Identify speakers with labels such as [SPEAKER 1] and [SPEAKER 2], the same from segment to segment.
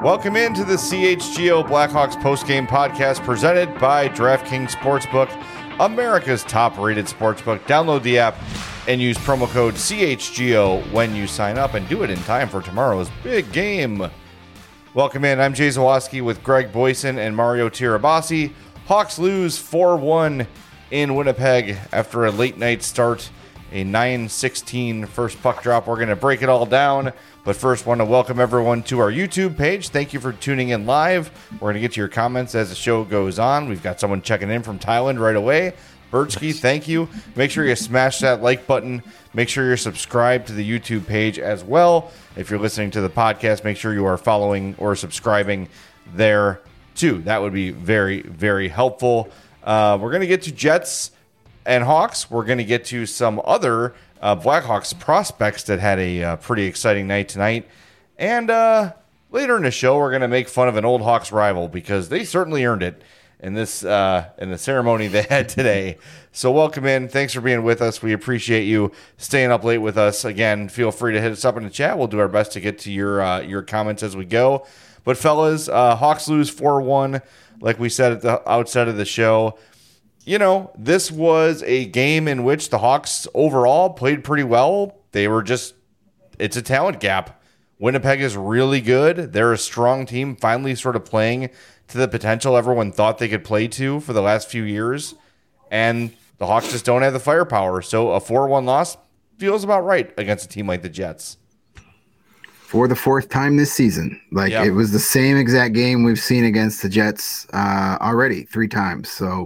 [SPEAKER 1] Welcome into the CHGO Blackhawks postgame podcast presented by DraftKings Sportsbook, America's top-rated sportsbook. Download the app and use promo code CHGO when you sign up, and do it in time for tomorrow's big game. Welcome in. I'm Jay Zawaski with Greg Boyson and Mario Tirabassi. Hawks lose 4-1 in Winnipeg after a late night start, a 9-16 first puck drop. We're going to break it all down. But first, want to welcome everyone to our YouTube page. Thank you for tuning in live. We're going to get to your comments as the show goes on. We've got someone checking in from Thailand right away. Birchke, thank you. Make sure you smash that like button. Make sure you're subscribed to the YouTube page as well. If you're listening to the podcast, make sure you are following or subscribing there too. That would be very, very helpful. We're going to get to Jets and Hawks. We're going to get to some other Blackhawks prospects that had a pretty exciting night tonight. And later in the show, we're going to make fun of an old Hawks rival because they certainly earned it in this in the ceremony they had today. So welcome in. Thanks for being with us. We appreciate you staying up late with us. Again, feel free to hit us up in the chat. We'll do our best to get to your comments as we go. But fellas, Hawks lose 4-1, like we said at the outset of the show. You know, this was a game in which the Hawks overall played pretty well. It's a talent gap. Winnipeg is really good. They're a strong team, finally sort of playing to the potential everyone thought they could play to for the last few years. And the Hawks just don't have the firepower. So a 4-1 loss feels about right against a team like the Jets.
[SPEAKER 2] For the fourth time this season. It was the same exact game we've seen against the Jets already 3 times. So,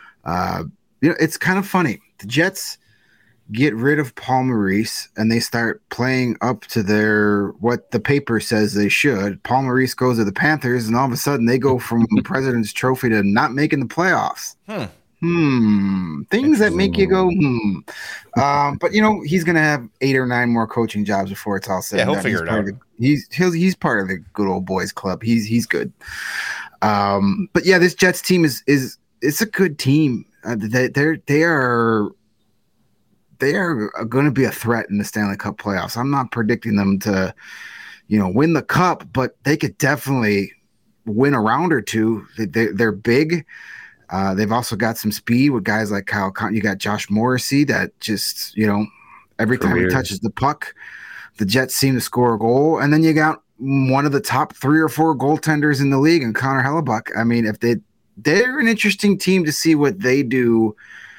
[SPEAKER 2] it's kind of funny. The Jets get rid of Paul Maurice and they start playing up to what the paper says they should. Paul Maurice goes to the Panthers and all of a sudden they go from President's Trophy to not making the playoffs. Things that make you go, but he's going to have 8 or 9 more coaching jobs before it's all said.
[SPEAKER 1] Yeah, he'll figure it out.
[SPEAKER 2] He's part of the good old boys club. He's good. But yeah, this Jets team is it's a good team. They are going to be a threat in the Stanley Cup playoffs. I'm not predicting them to, win the cup, but they could definitely win a round or two. They're big. They've also got some speed with guys like Kyle Cotton. You got Josh Morrissey that just, every time he touches the puck, the Jets seem to score a goal. And then you got one of the top 3 or 4 goaltenders in the league in Connor Hellebuck. I mean, if they're an interesting team to see what they do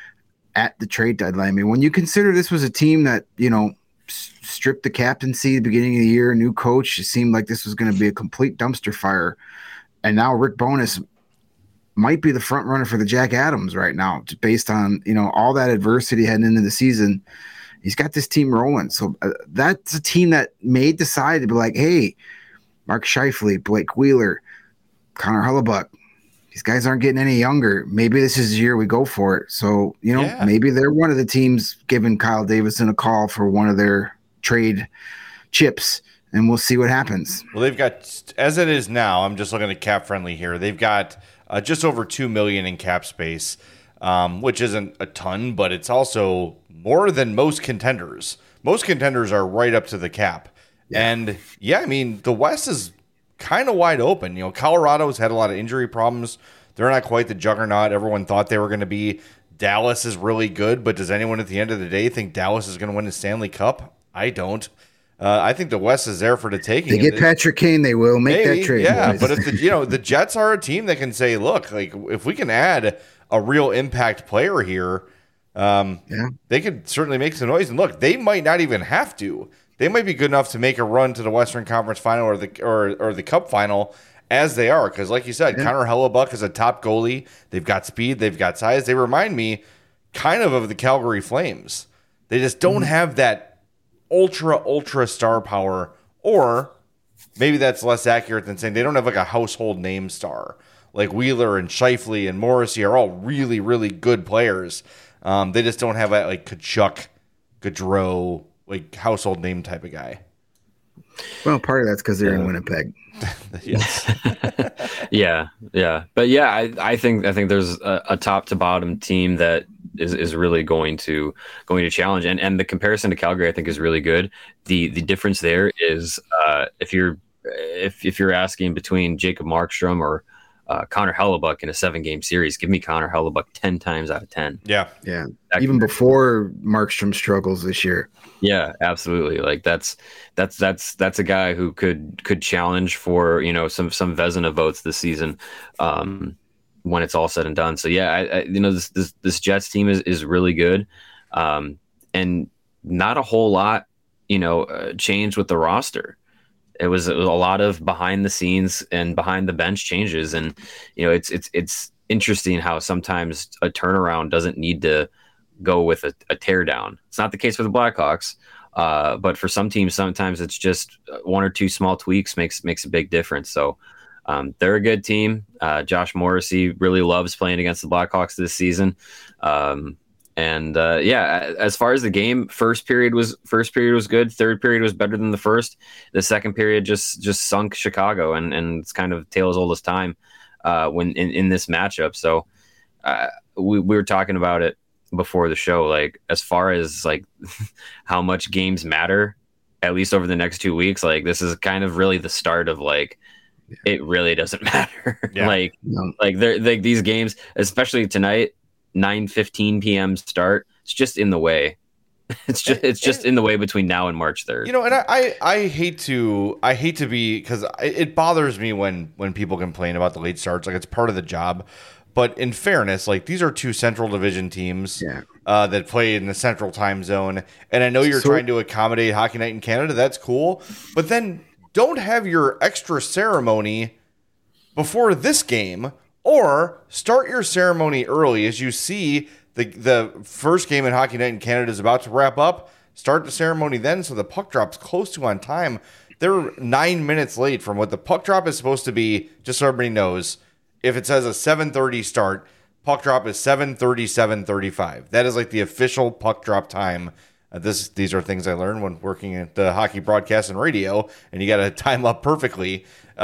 [SPEAKER 2] at the trade deadline. I mean, when you consider this was a team that, stripped the captaincy at the beginning of the year, new coach, it seemed like this was going to be a complete dumpster fire. And now Rick Bowness might be the front runner for the Jack Adams right now, based on, all that adversity heading into the season. He's got this team rolling. So that's a team that may decide to be like, hey, Mark Scheifele, Blake Wheeler, Connor Hellebuck, these guys aren't getting any younger. Maybe this is the year we go for it. So, maybe they're one of the teams giving Kyle Davidson a call for one of their trade chips, and we'll see what happens.
[SPEAKER 1] Well, they've got, as it is now, I'm just looking at Cap Friendly here. They've got just over $2 million in cap space, which isn't a ton, but it's also more than most contenders. Most contenders are right up to the cap. Yeah. And I mean, the West is kind of wide open. Colorado's had a lot of injury problems. They're not quite the juggernaut everyone thought they were going to be. Dallas is really good, but does anyone at the end of the day think Dallas is going to win the Stanley Cup? I don't. I think the West is there for the taking.
[SPEAKER 2] They get Patrick Kane, they will make that trade.
[SPEAKER 1] Yeah, boys. But if the Jets are a team that can say, look, like if we can add a real impact player here, they could certainly make some noise. And look, they might not even have to. They might be good enough to make a run to the Western Conference Final or the Cup Final as they are. Because like you said, Connor Hellebuck is a top goalie. They've got speed. They've got size. They remind me kind of the Calgary Flames. They just don't have that ultra star power. Or maybe that's less accurate than saying they don't have like a household name star. Like Wheeler and Scheifele and Morrissey are all really, really good players. They just don't have that like Kachuk, Gaudreau, like household name type of guy.
[SPEAKER 2] Well, part of that's because they're in Winnipeg.
[SPEAKER 1] Yes.
[SPEAKER 3] Yeah. But yeah, I think there's a top to bottom team that is really going to challenge, and the comparison to Calgary I think is really good. The difference there is if you're if you're asking between Jacob Markstrom or Connor Hellebuck in a 7-game series, give me Connor Hellebuck 10 times out of 10.
[SPEAKER 2] Yeah. Even before Markstrom struggles this year.
[SPEAKER 3] Yeah, absolutely. Like that's a guy who could challenge for, some Vezina votes this season, when it's all said and done. So yeah, this Jets team is really good, and not a whole lot, changed with the roster. It was a lot of behind the scenes and behind the bench changes, and it's interesting how sometimes a turnaround doesn't need to go with a tear down. It's not the case for the Blackhawks, but for some teams, sometimes it's just one or two small tweaks makes a big difference. So they're a good team. Josh Morrissey really loves playing against the Blackhawks this season. As far as the game, first period was good. Third period was better than the first. The second period just sunk Chicago, and it's kind of tale as old as time when in this matchup. So we were talking about it before the show, like as far as like how much games matter, at least over the next 2 weeks. Like this is kind of really the start of like it really doesn't matter. Like these games, especially tonight. 9:15 p.m. start. It's just in the way. It's just in the way between now and March 3rd.
[SPEAKER 1] And I hate to be, because it bothers me when people complain about the late starts. Like it's part of the job. But in fairness, like these are two Central Division teams that play in the Central Time Zone, and I know you're trying to accommodate Hockey Night in Canada. That's cool, but then don't have your extra ceremony before this game. Or start your ceremony early as you see the first game in Hockey Night in Canada is about to wrap up. Start the ceremony then so the puck drops close to on time. They're 9 minutes late from what the puck drop is supposed to be, just so everybody knows. If it says a 7:30 start, puck drop is 7:37:35. That is like the official puck drop time. These are things I learned when working at the hockey broadcast and radio, and you got to time up perfectly.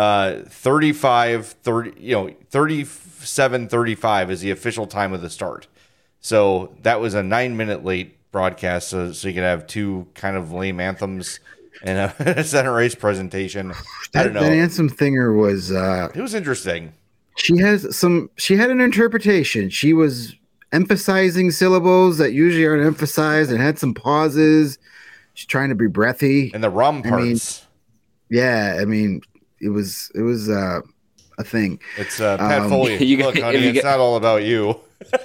[SPEAKER 1] 37:35 is the official time of the start. So that was a 9-minute late broadcast, so you could have two kind of lame anthems and a center ice presentation. I don't know.
[SPEAKER 2] That anthem thinger was
[SPEAKER 1] it was interesting.
[SPEAKER 2] She had an interpretation. She was emphasizing syllables that usually aren't emphasized and had some pauses. She's trying to be breathy.
[SPEAKER 1] And the rum parts.
[SPEAKER 2] It was a thing.
[SPEAKER 1] It's Pat Foley. Look, honey, it's not all about you.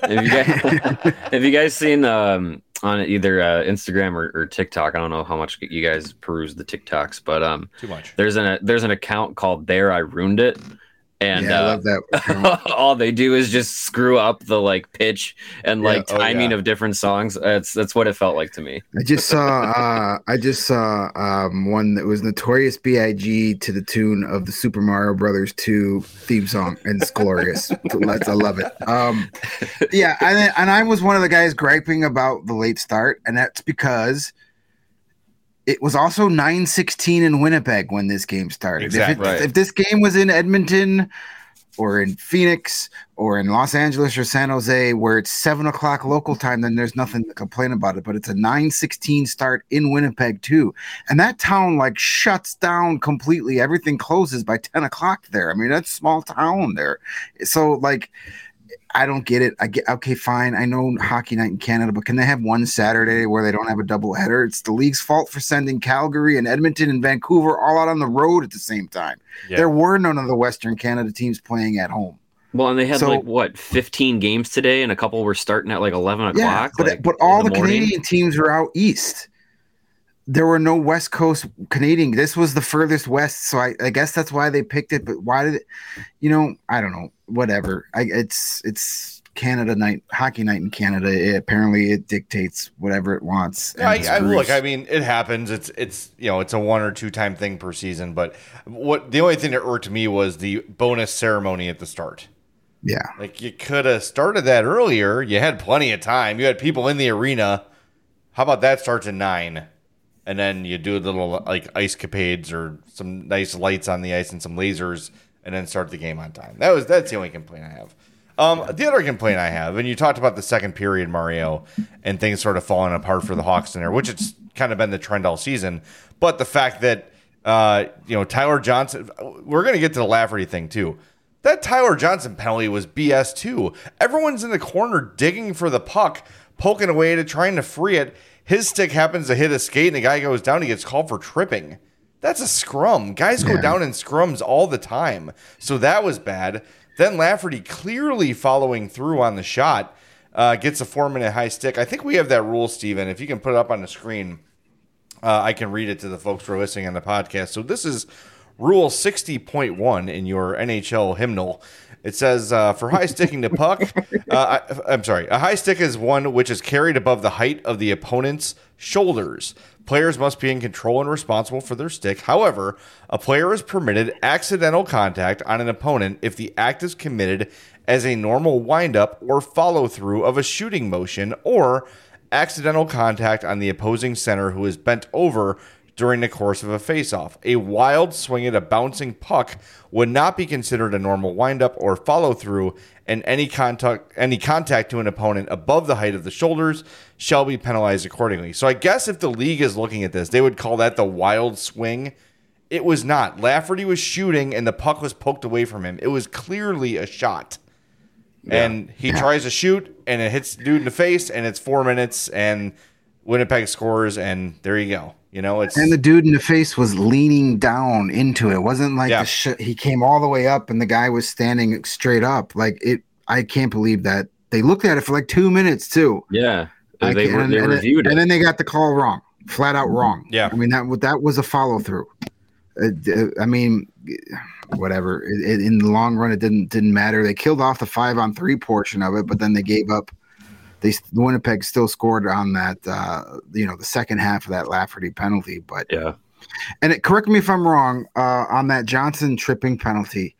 [SPEAKER 3] Have you guys seen on either Instagram or TikTok? I don't know how much you guys peruse the TikToks, but
[SPEAKER 1] too much.
[SPEAKER 3] There's an account called There I Ruined It. And
[SPEAKER 2] I love that.
[SPEAKER 3] All they do is just screw up the like pitch and timing of different songs. That's what it felt like to me.
[SPEAKER 2] I just saw one that was Notorious B.I.G. to the tune of the Super Mario Brothers 2 theme song, and it's glorious. I love it. And I was one of the guys griping about the late start, and that's because it was also 9:16 in Winnipeg when this game started.
[SPEAKER 1] Exactly.
[SPEAKER 2] If this game was in Edmonton or in Phoenix or in Los Angeles or San Jose, where it's 7:00 local time, then there's nothing to complain about it. But it's a 9:16 start in Winnipeg too, and that town like shuts down completely. Everything closes by 10:00 there. I mean, that's a small town there. So like, I don't get it. Okay, fine. I know Hockey Night in Canada, but can they have one Saturday where they don't have a doubleheader? It's the league's fault for sending Calgary and Edmonton and Vancouver all out on the road at the same time. Yeah. There were none of the Western Canada teams playing at home.
[SPEAKER 3] Well, and they had 15 games today, and a couple were starting at like 11:00.
[SPEAKER 2] Yeah, but all the Canadian teams were out east. There were no West Coast Canadian. This was the furthest west, so I guess that's why they picked it. But why did it? I don't know. Whatever. It's Canada night, Hockey Night in Canada. Apparently, it dictates whatever it wants.
[SPEAKER 1] Look, I mean, it happens. It's it's a 1 or 2 time thing per season. But the only thing that irked me was the bonus ceremony at the start.
[SPEAKER 2] Yeah,
[SPEAKER 1] like you could have started that earlier. You had plenty of time. You had people in the arena. How about that starts at 9? And then you do a little like ice capades or some nice lights on the ice and some lasers, and then start the game on time. That's the only complaint I have. The other complaint I have, and you talked about the second period, Mario, and things sort of falling apart for the Hawks in there, which it's kind of been the trend all season. But the fact that Tyler Johnson. We're going to get to the Lafferty thing too. That Tyler Johnson penalty was BS too. Everyone's in the corner digging for the puck, poking away at it, trying to free it. His stick happens to hit a skate, and the guy goes down. He gets called for tripping. That's a scrum. Guys go down in scrums all the time. So that was bad. Then Lafferty clearly following through on the shot, gets a 4-minute high stick. I think we have that rule, Steven. If you can put it up on the screen, I can read it to the folks who are listening on the podcast. So this is Rule 60.1 in your NHL hymnal. It says, for high sticking the puck, a high stick is one which is carried above the height of the opponent's shoulders. Players must be in control and responsible for their stick. However, a player is permitted accidental contact on an opponent if the act is committed as a normal windup or follow-through of a shooting motion, or accidental contact on the opposing center who is bent over during the course of a face-off. A wild swing at a bouncing puck would not be considered a normal windup or follow-through, and any contact to an opponent above the height of the shoulders shall be penalized accordingly. So I guess if the league is looking at this, they would call that the wild swing. It was not. Lafferty was shooting, and the puck was poked away from him. It was clearly a shot. Yeah. And he tries to shoot, and it hits the dude in the face, and it's 4 minutes, and Winnipeg scores, and there you go.
[SPEAKER 2] And the dude in the face was leaning down into it. It wasn't like he came all the way up and the guy was standing straight up. I can't believe that. They looked at it for like 2 minutes too.
[SPEAKER 3] Yeah. They reviewed it.
[SPEAKER 2] And then they got the call wrong, flat out wrong.
[SPEAKER 1] Yeah.
[SPEAKER 2] I mean, that was a follow through. I mean, whatever. In the long run, it didn't matter. They killed off the 5-on-3 portion of it, but then they gave up. The Winnipeg still scored on that, the second half of that Lafferty penalty. But
[SPEAKER 3] yeah,
[SPEAKER 2] and correct me if I'm wrong on that Johnson tripping penalty.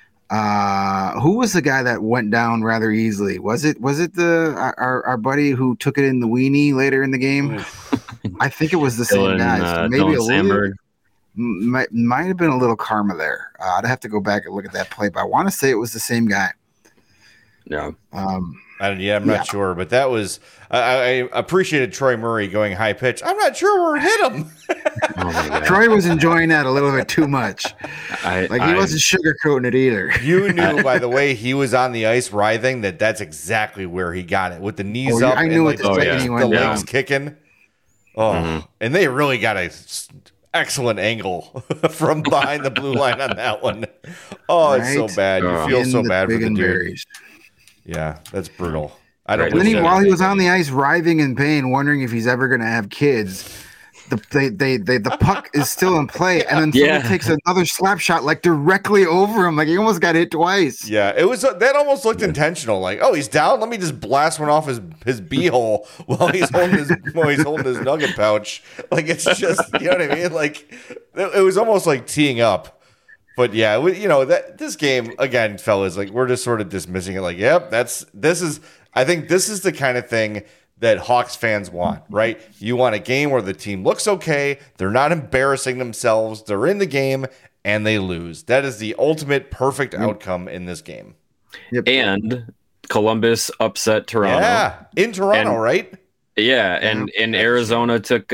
[SPEAKER 2] Who was the guy that went down rather easily? Was it our buddy who took it in the weenie later in the game? I think it was the same guy. So maybe a little, might have been a little karma there. I'd have to go back and look at that play, but I want to say it was the same guy.
[SPEAKER 3] Yeah.
[SPEAKER 1] I'm not sure, but that was I appreciated Troy Murray going high pitch. I'm not sure where it hit him.
[SPEAKER 2] Troy was enjoying that a little bit too much. He wasn't sugarcoating it either.
[SPEAKER 1] You knew by the way he was on the ice writhing that's exactly where he got it, with the knees up.
[SPEAKER 2] I knew
[SPEAKER 1] and the legs kicking. And they really got a excellent angle from behind the blue line on that one. It's so bad. You feel so bad for the dude. Yeah, that's brutal.
[SPEAKER 2] While he was on the ice, writhing in pain, wondering if he's ever going to have kids, the puck is still in play, and then someone takes another slap shot directly over him, he almost got hit twice.
[SPEAKER 1] Yeah, it was that almost looked intentional. He's down. Let me just blast one off his beehole while he's holding his nugget pouch. It's just you know what I mean. It was almost like teeing up. But yeah, this game again, fellas, we're just sort of dismissing it. I think this is the kind of thing that Hawks fans want, right? You want a game where the team looks okay, they're not embarrassing themselves, they're in the game, and they lose. That is the ultimate perfect outcome in this game.
[SPEAKER 3] Yep. And Columbus upset Toronto.
[SPEAKER 1] Yeah, in Toronto, right?
[SPEAKER 3] Yeah, and Arizona took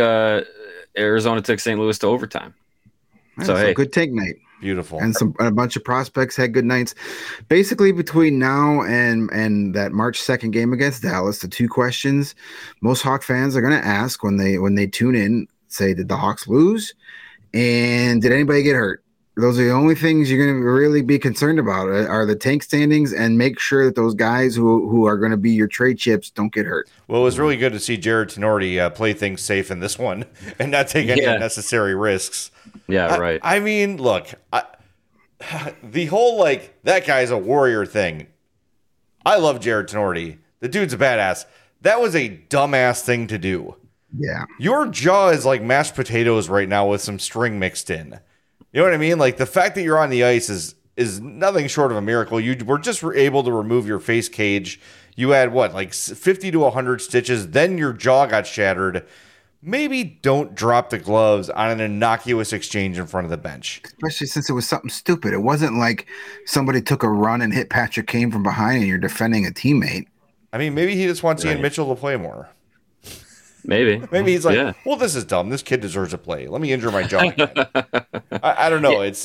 [SPEAKER 3] St. Louis to overtime.
[SPEAKER 2] So good take, Nate.
[SPEAKER 1] Beautiful.
[SPEAKER 2] And a bunch of prospects had good nights. Basically, between now and that March 2nd game against Dallas, the two questions most Hawk fans are going to ask when they tune in, say, did the Hawks lose? And did anybody get hurt? Those are the only things you're going to really be concerned about are the tank standings, and make sure that those guys who are going to be your trade chips don't get hurt.
[SPEAKER 1] Well, it was really good to see Jared Tenorti play things safe in this one and not take any unnecessary risks.
[SPEAKER 3] Yeah, right.
[SPEAKER 1] I mean, look, the whole that guy's a warrior thing. I love Jared Tenorti. The dude's a badass. That was a dumbass thing to do.
[SPEAKER 2] Yeah.
[SPEAKER 1] Your jaw is like mashed potatoes right now with some string mixed in. You know what I mean? The fact that you're on the ice is nothing short of a miracle. You were just able to remove your face cage. You had 50 to 100 stitches. Then your jaw got shattered. Maybe don't drop the gloves on an innocuous exchange in front of the bench.
[SPEAKER 2] Especially since it was something stupid. It wasn't like somebody took a run and hit Patrick Kane from behind and you're defending a teammate.
[SPEAKER 1] I mean, maybe he just wants Ian Mitchell to play more.
[SPEAKER 3] Maybe
[SPEAKER 1] he's well, this is dumb. This kid deserves to play. Let me injure my jaw again. I don't know. It's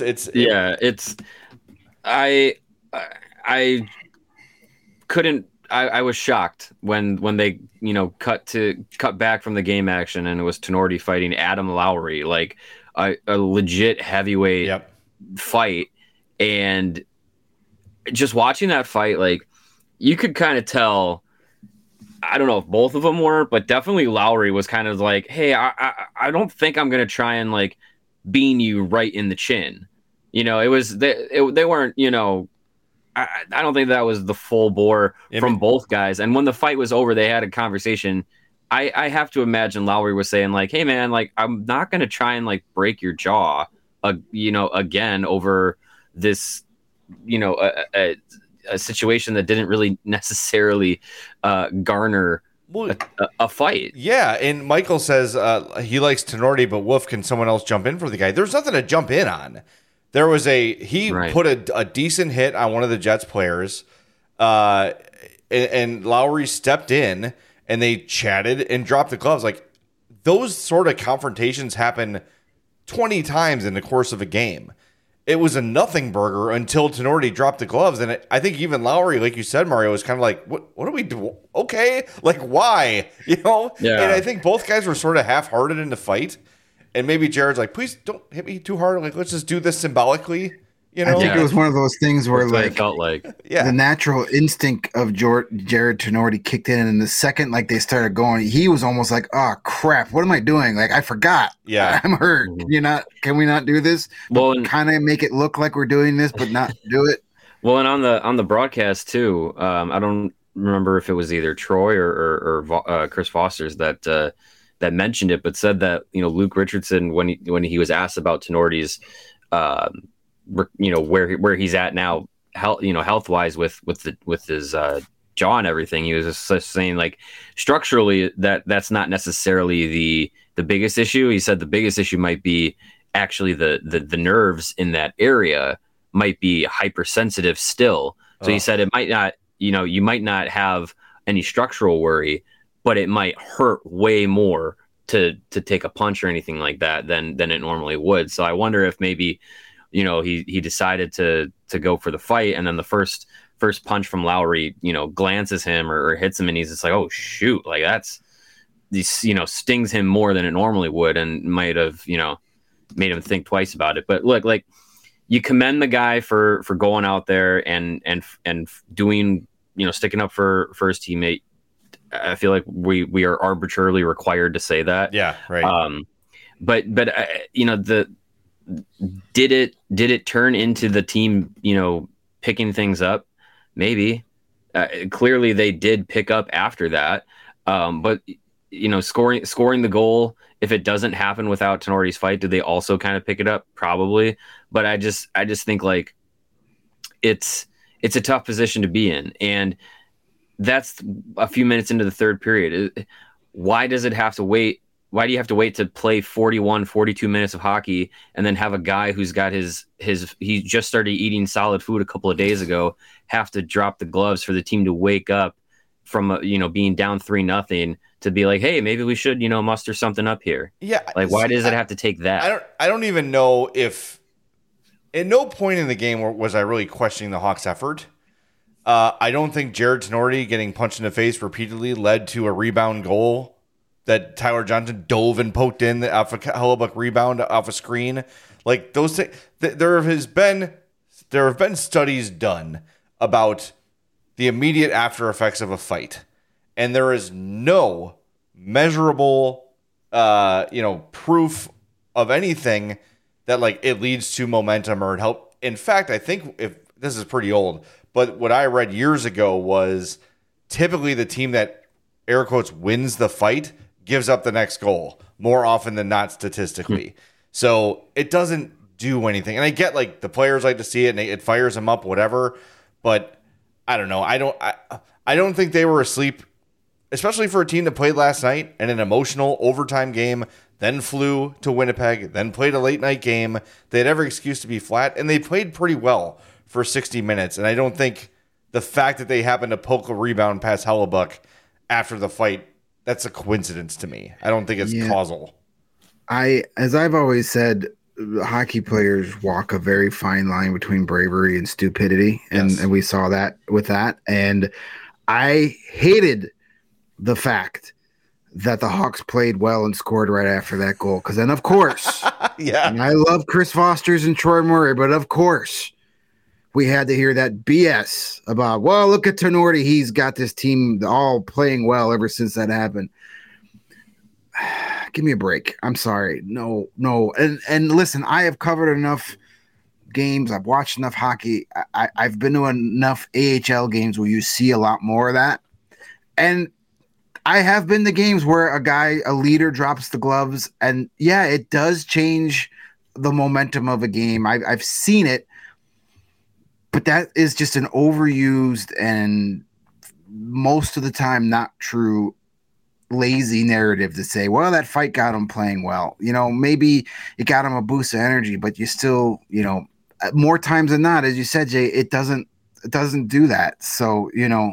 [SPEAKER 3] I couldn't. I was shocked when they cut back from the game action and it was Tenorti fighting Adam Lowry, like a legit heavyweight fight, and just watching that fight, like you could kind of tell. I don't know if both of them were, but definitely Lowry was kind of like, "Hey, I don't think I'm gonna try and like bean you right in the chin." It was they weren't. I don't think that was the full bore from both guys. And when the fight was over, they had a conversation. I have to imagine Lowry was saying like, "Hey man, like I'm not gonna try and like break your jaw, again over this, a situation that didn't really necessarily garner a fight."
[SPEAKER 1] Yeah, and Michael says he likes Tenorti, but Wolf, can someone else jump in for the guy? There's nothing to jump in on. There was put a decent hit on one of the Jets players, and Lowry stepped in and they chatted and dropped the gloves. Like those sort of confrontations happen 20 times in the course of a game. It was a nothing burger until Tenorti dropped the gloves. And I think even Lowry, like you said, Mario, was kind of like, what do we do? Okay. Like, why? Yeah. And I think both guys were sort of half-hearted in the fight. And maybe Jared's like, please don't hit me too hard. Like, let's just do this symbolically.
[SPEAKER 2] I think it was one of those things where like,
[SPEAKER 3] it felt like
[SPEAKER 2] the natural instinct of Jared Tenorti kicked in. And the second, like they started going, he was almost like, oh crap, what am I doing? Like, I forgot.
[SPEAKER 1] Yeah.
[SPEAKER 2] I'm hurt. Can we not do this? Well, kind of make it look like we're doing this, but not do it.
[SPEAKER 3] Well, and on the broadcast too, I don't remember if it was either Troy or Chris Foster's that mentioned it, but said that, Luke Richardson, when he was asked about Tenorti's, where he's at now, health wise with his jaw and everything, he was just saying like structurally that's not necessarily the biggest issue. He said the biggest issue might be actually the nerves in that area might be hypersensitive still. So he said it might not, you might not have any structural worry, but it might hurt way more to take a punch or anything like that than it normally would. So I wonder if maybe, he decided to go for the fight, and then the first punch from Lowry, glances him or hits him, and he's just like, oh shoot, like stings him more than it normally would, and might have, made him think twice about it. But look, like you commend the guy for going out there and doing, sticking up for his teammate. I feel like we are arbitrarily required to say that.
[SPEAKER 1] Yeah. Right.
[SPEAKER 3] But did it turn into the team, picking things up? Maybe. Clearly they did pick up after that. But scoring the goal, if it doesn't happen without Tenorti's fight, do they also kind of pick it up? Probably. But I just think like it's a tough position to be in, and that's a few minutes into the third period. Why does it have to wait? Why do you have to wait to play 41, 42 minutes of hockey and then have a guy who's got he just started eating solid food a couple of days ago have to drop the gloves for the team to wake up from, being down 3-0 to be like, hey, maybe we should, muster something up here.
[SPEAKER 1] Yeah.
[SPEAKER 3] Like, why does it have to take that?
[SPEAKER 1] I don't even know if at no point in the game was I really questioning the Hawks' effort. I don't think Jared Tenorti getting punched in the face repeatedly led to a rebound goal that Tyler Johnson dove and poked in off a Hellebuyck rebound off a screen. Like those things, there have been studies done about the immediate after effects of a fight, and there is no measurable, proof of anything that like it leads to momentum or it help. In fact, I think if this is pretty old, but what I read years ago was typically the team that air quotes wins the fight gives up the next goal more often than not statistically. So it doesn't do anything. And I get like the players like to see it and it fires them up, whatever. But I don't know. I don't think they were asleep, especially for a team that played last night in an emotional overtime game, then flew to Winnipeg, then played a late night game. They had every excuse to be flat, and they played pretty well for 60 minutes. And I don't think the fact that they happened to poke a rebound past Hellebuyck after the fight, that's a coincidence to me. I don't think it's causal.
[SPEAKER 2] As I've always said, hockey players walk a very fine line between bravery and stupidity, and we saw that with that. And I hated the fact that the Hawks played well and scored right after that goal, because then, of course, and I love Chris Foster's and Troy Murray, but of course, we had to hear that BS about, well, look at Tenorti. He's got this team all playing well ever since that happened. Give me a break. I'm sorry. No. And listen, I have covered enough games. I've watched enough hockey. I've been to enough AHL games where you see a lot more of that. And I have been to games where a leader drops the gloves, and yeah, it does change the momentum of a game. I've seen it, but that is just an overused and most of the time not true lazy narrative to say, well, that fight got him playing well. Maybe it got him a boost of energy, but you still, more times than not, as you said, Jay, it doesn't do that. So,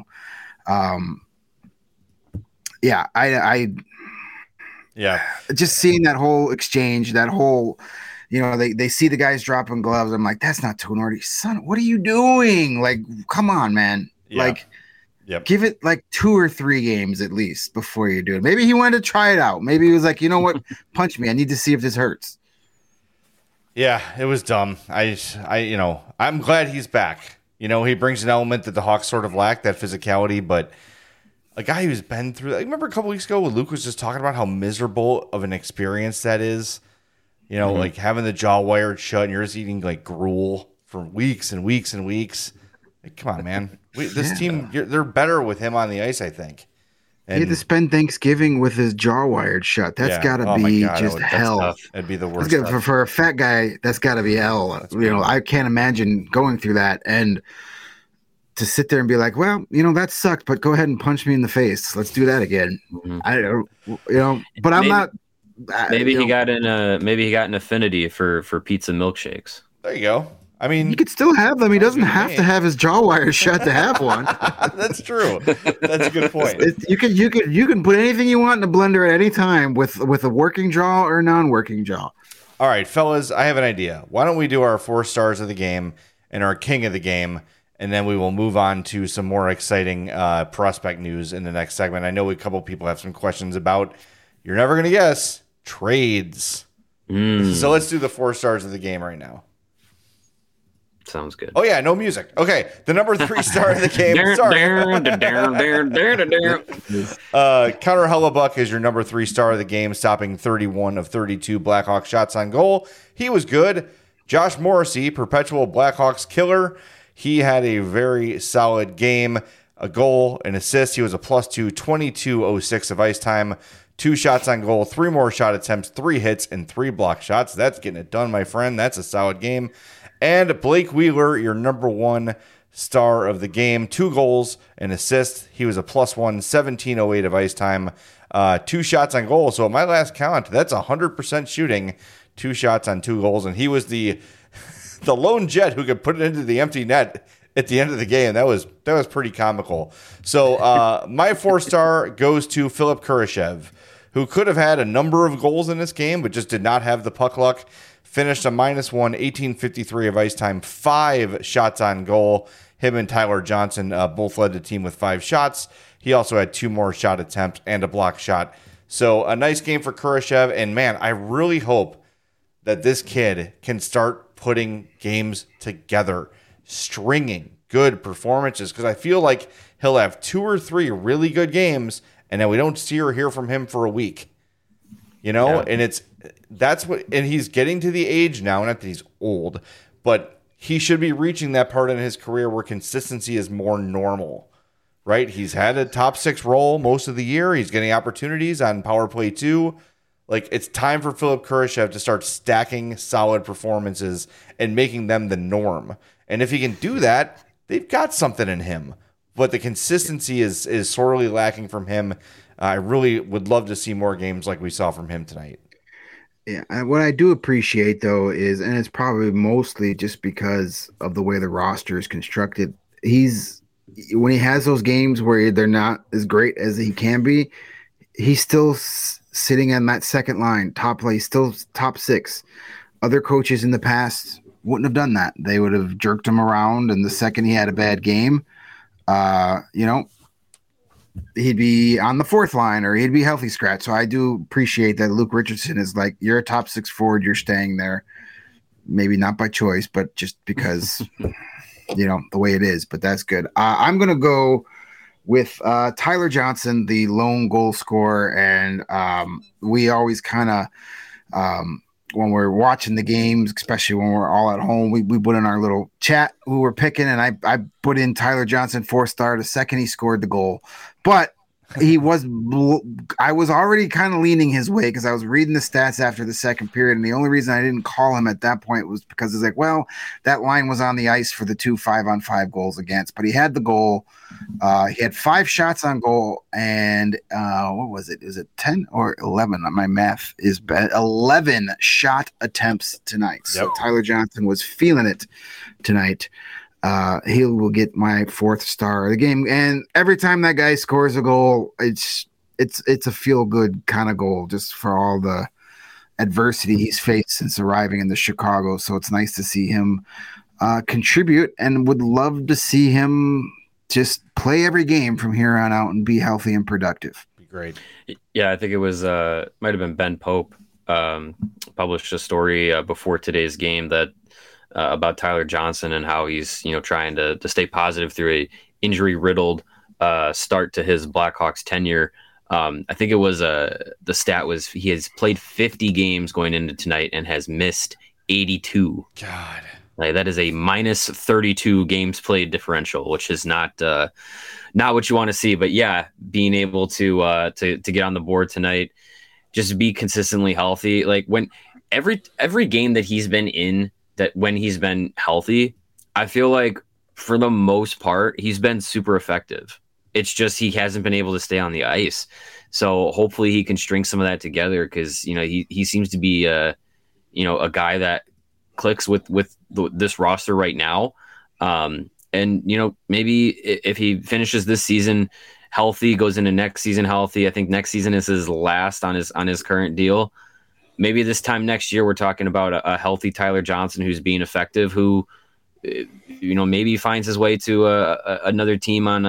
[SPEAKER 2] I just seeing that whole exchange, that whole, they see the guys dropping gloves. I'm like, that's not Tenorti, son. What are you doing? Like, come on, man. Yeah. Like, give it like 2 or 3 games at least before you do it. Maybe he wanted to try it out. Maybe he was like, you know what? Punch me. I need to see if this hurts.
[SPEAKER 1] Yeah, it was dumb. I'm glad he's back. He brings an element that the Hawks sort of lack, that physicality, but a guy who's been through that. I remember a couple weeks ago when Luke was just talking about how miserable of an experience that is. Like having the jaw wired shut and you're just eating like gruel for weeks and weeks and weeks. Like, come on, man. This team, they're better with him on the ice, I think. And
[SPEAKER 2] he had to spend Thanksgiving with his jaw wired shut. That's got to be just hell.
[SPEAKER 1] It'd be the worst.
[SPEAKER 2] For a fat guy, that's got to be hell. I can't imagine going through that and to sit there and be like, well, that sucked, but go ahead and punch me in the face. Let's do that again. Mm-hmm. But I'm not.
[SPEAKER 3] Maybe he got an affinity for pizza milkshakes.
[SPEAKER 1] There you go. I mean,
[SPEAKER 2] he could still have them. He doesn't have to have his jaw wire shut to have one.
[SPEAKER 1] That's true. That's a good point.
[SPEAKER 2] You can put anything you want in the blender at any time with a working jaw or non-working jaw.
[SPEAKER 1] All right, fellas, I have an idea. Why don't we do our 4 stars of the game and our king of the game, and then we will move on to some more exciting prospect news in the next segment. I know a couple people have some questions about, you're never going to guess, trades. So let's do the 4 stars of the game right now.
[SPEAKER 3] Sounds good.
[SPEAKER 1] Oh, yeah, no music. Okay, the number 3 star of the game. Sorry. Connor Hellebuck is your number 3 star of the game, stopping 31 of 32 Blackhawks shots on goal. He was good. Josh Morrissey, perpetual Blackhawks killer. He had a very solid game, a goal, an assist. He was a +2, 22:06 of ice time, 2 shots on goal, 3 more shot attempts, 3 hits, and 3 block shots. That's getting it done, my friend. That's a solid game. And Blake Wheeler, your number 1 star of the game, 2 goals, an assist. He was a +1, 17:08 of ice time, 2 shots on goal. So at my last count, that's 100% shooting, 2 shots on 2 goals. And he was the lone jet who could put it into the empty net at the end of the game. That was pretty comical. So my 4 star goes to Philip Kurashev, who could have had a number of goals in this game, but just did not have the puck luck. Finished a -1, 18:53 of ice time, 5 shots on goal. Him and Tyler Johnson both led the team with 5 shots. He also had 2 more shot attempts and a block shot. So a nice game for Kurashev. And man, I really hope that this kid can start putting games together, stringing good performances, because I feel like he'll have 2 or 3 really good games, and then we don't see or hear from him for a week. And and he's getting to the age now, not that he's old, but he should be reaching that part in his career where consistency is more normal, right? He's had a top 6 role most of the year. He's getting opportunities on power play 2. Like, it's time for Philip Kurashev to start stacking solid performances and making them the norm. And if he can do that, they've got something in him. But the consistency is sorely lacking from him. I really would love to see more games like we saw from him tonight.
[SPEAKER 2] Yeah, what I do appreciate, though, is, and it's probably mostly just because of the way the roster is constructed, when he has those games where they're not as great as he can be, he's still sitting in that second line, top play, still top 6. other coaches in the past wouldn't have done that. They would have jerked him around, and the second he had a bad game, he'd be on the fourth line or he'd be healthy scratch. So I do appreciate that Luke Richardson is like, you're a top six forward, you're staying there. Maybe not by choice, but just because, the way it is. But that's good. I'm going to go with Tyler Johnson, the lone goal scorer. And we always kind of, when we're watching the games, especially when we're all at home, we put in our little chat who we're picking, and I put in Tyler Johnson 4-star the second he scored the goal. But I was already kind of leaning his way because I was reading the stats after the second period, and the only reason I didn't call him at that point was because it's like, well, that line was on the ice for the 2 5-on-5 goals against, but he had the goal. He had 5 shots on goal, and what was it? Is it 10 or 11? My math is bad. 11 shot attempts tonight. So Tyler Johnson was feeling it tonight. He will get my 4th star of the game. And every time that guy scores a goal, it's a feel good kind of goal, just for all the adversity he's faced since arriving in the Chicago. So it's nice to see him contribute, and would love to see him just play every game from here on out and be healthy and productive.
[SPEAKER 1] Be great.
[SPEAKER 3] Yeah, I think it was might have been Ben Pope published a story before today's game that about Tyler Johnson and how he's trying to stay positive through a injury riddled start to his Blackhawks tenure. I think it was the stat was he has played 50 games going into tonight and has missed 82.
[SPEAKER 1] God,
[SPEAKER 3] like, that is a minus 32 games played differential, which is not what you want to see. But yeah, being able to get on the board tonight, just be consistently healthy. Like when every game that he's been in, that when he's been healthy, I feel like for the most part, he's been super effective. It's just he hasn't been able to stay on the ice. So hopefully he can string some of that together, because he seems to be a guy that clicks with this roster right now. And maybe if he finishes this season healthy, goes into next season healthy, I think next season is his last on his current deal. Maybe this time next year we're talking about a healthy Tyler Johnson who's being effective, who maybe finds his way to another team on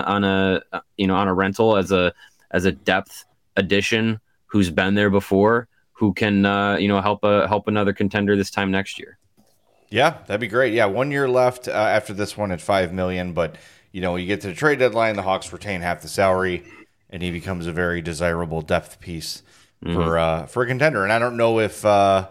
[SPEAKER 3] a rental as a depth addition who's been there before, who can help another contender this time next year.
[SPEAKER 1] Yeah, that'd be great. Yeah, 1 year left after this one at $5 million, but you get to the trade deadline, the Hawks retain half the salary, and he becomes a very desirable depth piece for a contender. And I don't know if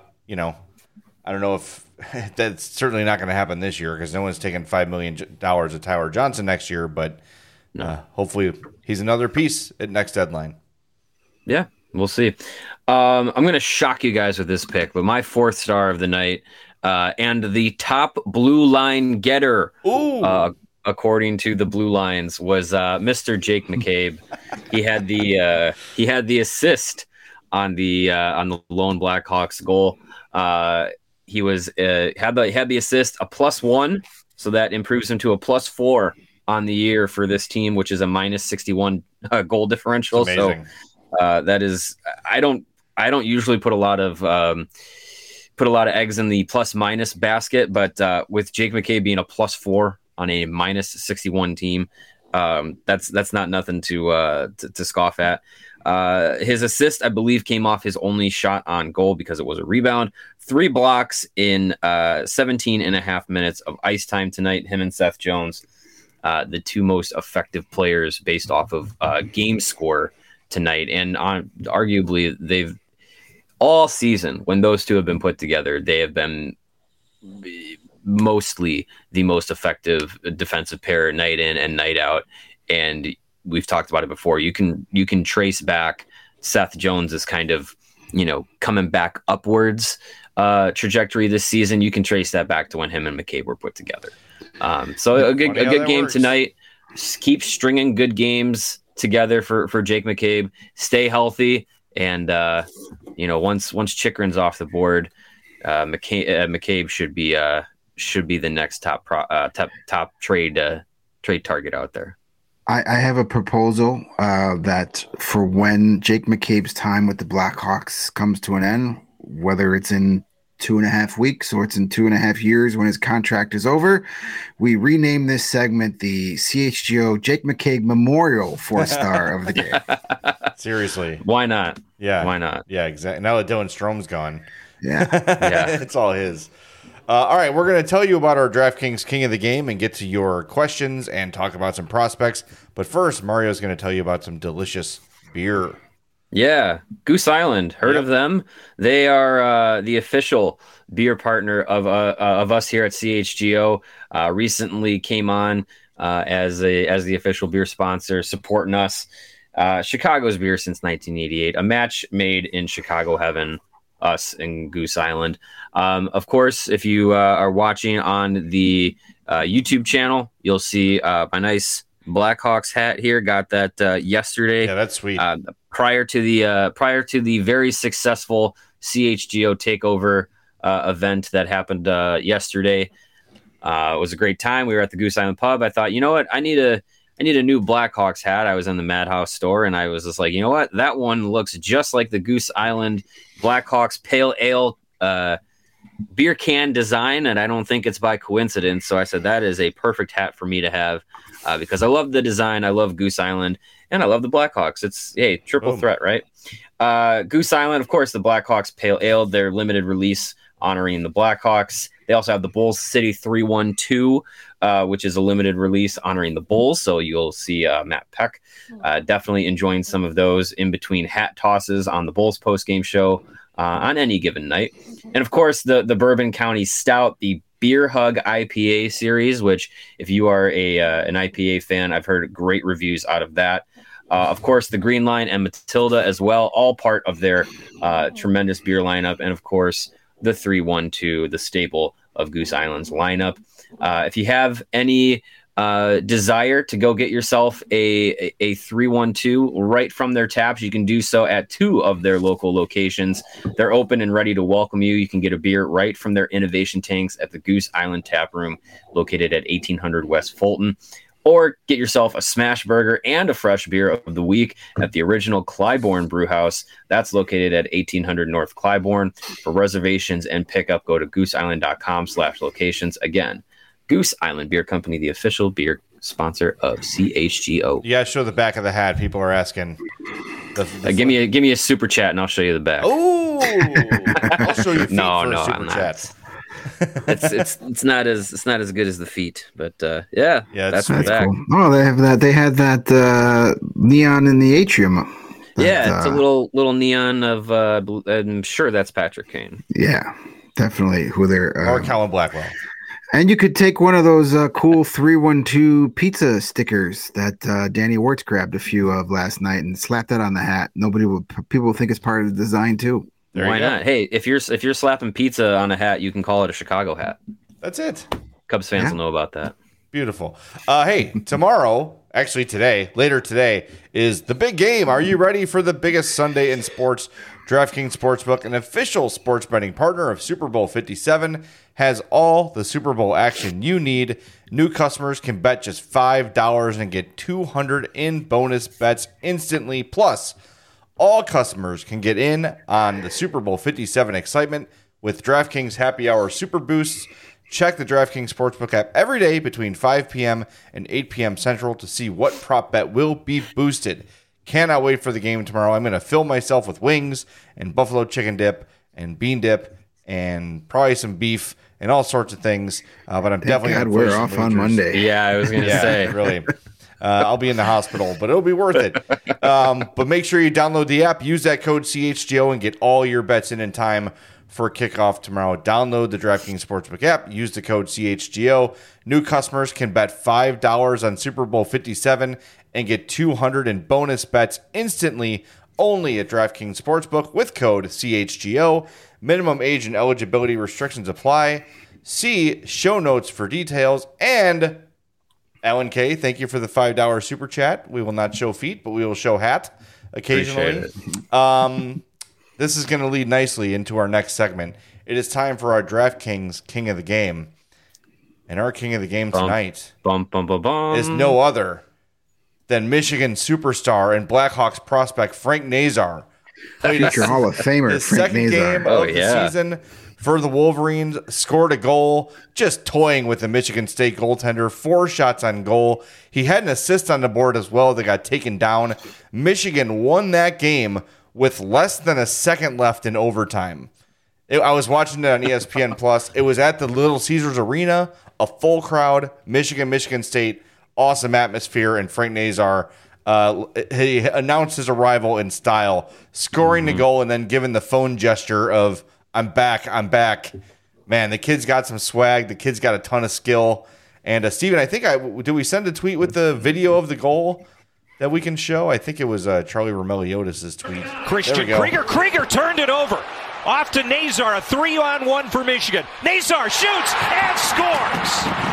[SPEAKER 1] that's certainly not going to happen this year, because no one's taking $5 million of Tyler Johnson next year. But hopefully he's another piece at next deadline.
[SPEAKER 3] Yeah, we'll see. I'm going to shock you guys with this pick, but my 4th star of the night and the top blue line getter, according to the Blue Lines, was Mr. Jake McCabe. He had the assist on the lone Blackhawks goal. He was had the assist, a +1, so that improves him to a +4 on the year for this team, which is a -61 goal differential. So that is, I don't usually put a lot of eggs in the plus-minus basket, but with Jake McCabe being a +4 on a -61 team, that's not nothing to scoff at. His assist, I believe, came off his only shot on goal because it was a rebound. 3 blocks in 17 and a half minutes of ice time tonight. Him and Seth Jones, the 2 most effective players based off of game score tonight. And arguably, they've all season, when those 2 have been put together, they have been mostly the most effective defensive pair night in and night out. And we've talked about it before. You can trace back Seth Jones's kind of, coming back upwards trajectory this season. You can trace that back to when him and McCabe were put together. So a good game tonight. Keep stringing good games together for Jake McCabe. Stay healthy, and once Chychrun's off the board, McCabe should be the next top trade target out there.
[SPEAKER 2] I have a proposal that for when Jake McCabe's time with the Blackhawks comes to an end, whether it's in 2.5 weeks, or it's in 2.5 years when his contract is over, we rename this segment the CHGO Jake McCaig Memorial 4-star of the game.
[SPEAKER 1] Seriously.
[SPEAKER 3] Why not?
[SPEAKER 1] Yeah.
[SPEAKER 3] Why not?
[SPEAKER 1] Yeah, exactly. Now that Dylan Strom's gone.
[SPEAKER 2] Yeah.
[SPEAKER 3] Yeah.
[SPEAKER 1] It's all his. All right, we're going to tell you about our DraftKings King of the Game and get to your questions and talk about some prospects. But first, Mario's going to tell you about some delicious beer.
[SPEAKER 3] Yeah, Goose Island. Heard of them? They are the official beer partner of us here at CHGO. Recently came on as the official beer sponsor, supporting us. Chicago's beer since 1988. A match made in Chicago heaven. Us and Goose Island. Of course, if you are watching on the YouTube channel, you'll see my nice Blackhawks hat here. Got that yesterday.
[SPEAKER 1] Yeah, that's sweet.
[SPEAKER 3] Prior to the very successful CHGO takeover event that happened yesterday. It was a great time. We were at the Goose Island pub. I thought, you know what? I need a new Blackhawks hat. I was in the Madhouse store, and I was just like, you know what? That one looks just like the Goose Island Blackhawks Pale Ale beer can design, and I don't think it's by coincidence. So I said that is a perfect hat for me to have because I love the design. I love Goose Island, and I love the Blackhawks. It's triple threat, right? Goose Island, of course, the Blackhawks Pale Ale, their limited release honoring the Blackhawks. They also have the Bulls City 312, which is a limited release honoring the Bulls. So you'll see Matt Peck definitely enjoying some of those in between hat tosses on the Bulls postgame show on any given night. And of course, the Bourbon County Stout, the Beer Hug IPA series, which if you are an IPA fan, I've heard great reviews out of that. Of course, the Green Line and Matilda as well, all part of their tremendous beer lineup. And of course, the 312, the staple of Goose Island's lineup. If you have any desire to go get yourself a 312 right from their taps, you can do so at 2 of their local locations. They're open and ready to welcome you. You can get a beer right from their innovation tanks at the Goose Island Tap Room, located at 1800 West Fulton. Or get yourself a smash burger and a fresh beer of the week at the original Clybourne Brewhouse. That's located at 1800 North Clybourne. For reservations and pickup, go to gooseisland.com/locations. Again, Goose Island Beer Company, the official beer sponsor of CHGO.
[SPEAKER 1] You gotta show the back of the hat. People are asking.
[SPEAKER 3] Give me a super chat and I'll show you the back.
[SPEAKER 1] Oh, I'll show you.
[SPEAKER 3] No,
[SPEAKER 1] super chat.
[SPEAKER 3] It's not as good as the feet, but yeah, that's back.
[SPEAKER 2] Cool. Oh, they have that. They had that neon in the atrium.
[SPEAKER 3] It's a little neon of. I'm sure that's Patrick Kane.
[SPEAKER 2] Yeah, definitely. Who they're
[SPEAKER 1] or Colin Blackwell.
[SPEAKER 2] And you could take one of those cool 312 pizza stickers that Danny Wirtz grabbed a few of last night and slap that on the hat. People will think it's part of the design too.
[SPEAKER 3] Why not? Hey, if you're slapping pizza on a hat, you can call it a Chicago hat.
[SPEAKER 1] That's it.
[SPEAKER 3] Cubs fans will know about that.
[SPEAKER 1] Beautiful. Hey, tomorrow, actually later today, is the big game. Are you ready for the biggest Sunday in sports? DraftKings Sportsbook, an official sports betting partner of Super Bowl 57, has all the Super Bowl action you need. New customers can bet just $5 and get $200 in bonus bets instantly. Plus, all customers can get in on the Super Bowl 57 excitement with DraftKings Happy Hour Super Boosts. Check the DraftKings Sportsbook app every day between 5 p.m. and 8 p.m. Central to see what prop bet will be boosted. Cannot wait for the game tomorrow. I'm going to fill myself with wings and buffalo chicken dip and bean dip and probably some beef and all sorts of things. But I'm definitely going to
[SPEAKER 2] we're off on Monday.
[SPEAKER 3] Yeah, I was going to say.
[SPEAKER 1] Really. I'll be in the hospital, but it'll be worth it. But make sure you download the app, use that code CHGO, and get all your bets in time for kickoff tomorrow. Download the DraftKings Sportsbook app, use the code CHGO. New customers can bet $5 on Super Bowl 57 and get $200 in bonus bets instantly only at DraftKings Sportsbook with code CHGO. Minimum age and eligibility restrictions apply. See show notes for details. And Alan K., thank you for the $5 super chat. We will not show feet, but we will show hat occasionally. This is going to lead nicely into our next segment. It is time for our DraftKings King of the Game. And our King of the Game tonight is no other than Michigan superstar and Blackhawks prospect Frank Nazar.
[SPEAKER 2] Future Hall of Famer
[SPEAKER 1] the
[SPEAKER 2] Frank
[SPEAKER 1] second
[SPEAKER 2] Nazar.
[SPEAKER 1] game of the season for the Wolverines, scored a goal, just toying with the Michigan State goaltender, 4 shots on goal. He had an assist on the board as well that got taken down. Michigan won that game with less than a second left in overtime. I was watching it on ESPN Plus. It was at the Little Caesars Arena, a full crowd, Michigan State, awesome atmosphere, and Frank Nazar, he announced his arrival in style, scoring the goal and then giving the phone gesture of, I'm back. Man, the kid's got some swag. The kid's got a ton of skill. And Steven, I think did we send a tweet with the video of the goal that we can show? I think it was Charlie Romeliotis' tweet.
[SPEAKER 4] Christian Krieger turned it over. Off to Nazar, a 3-on-1 for Michigan. Nazar shoots and scores.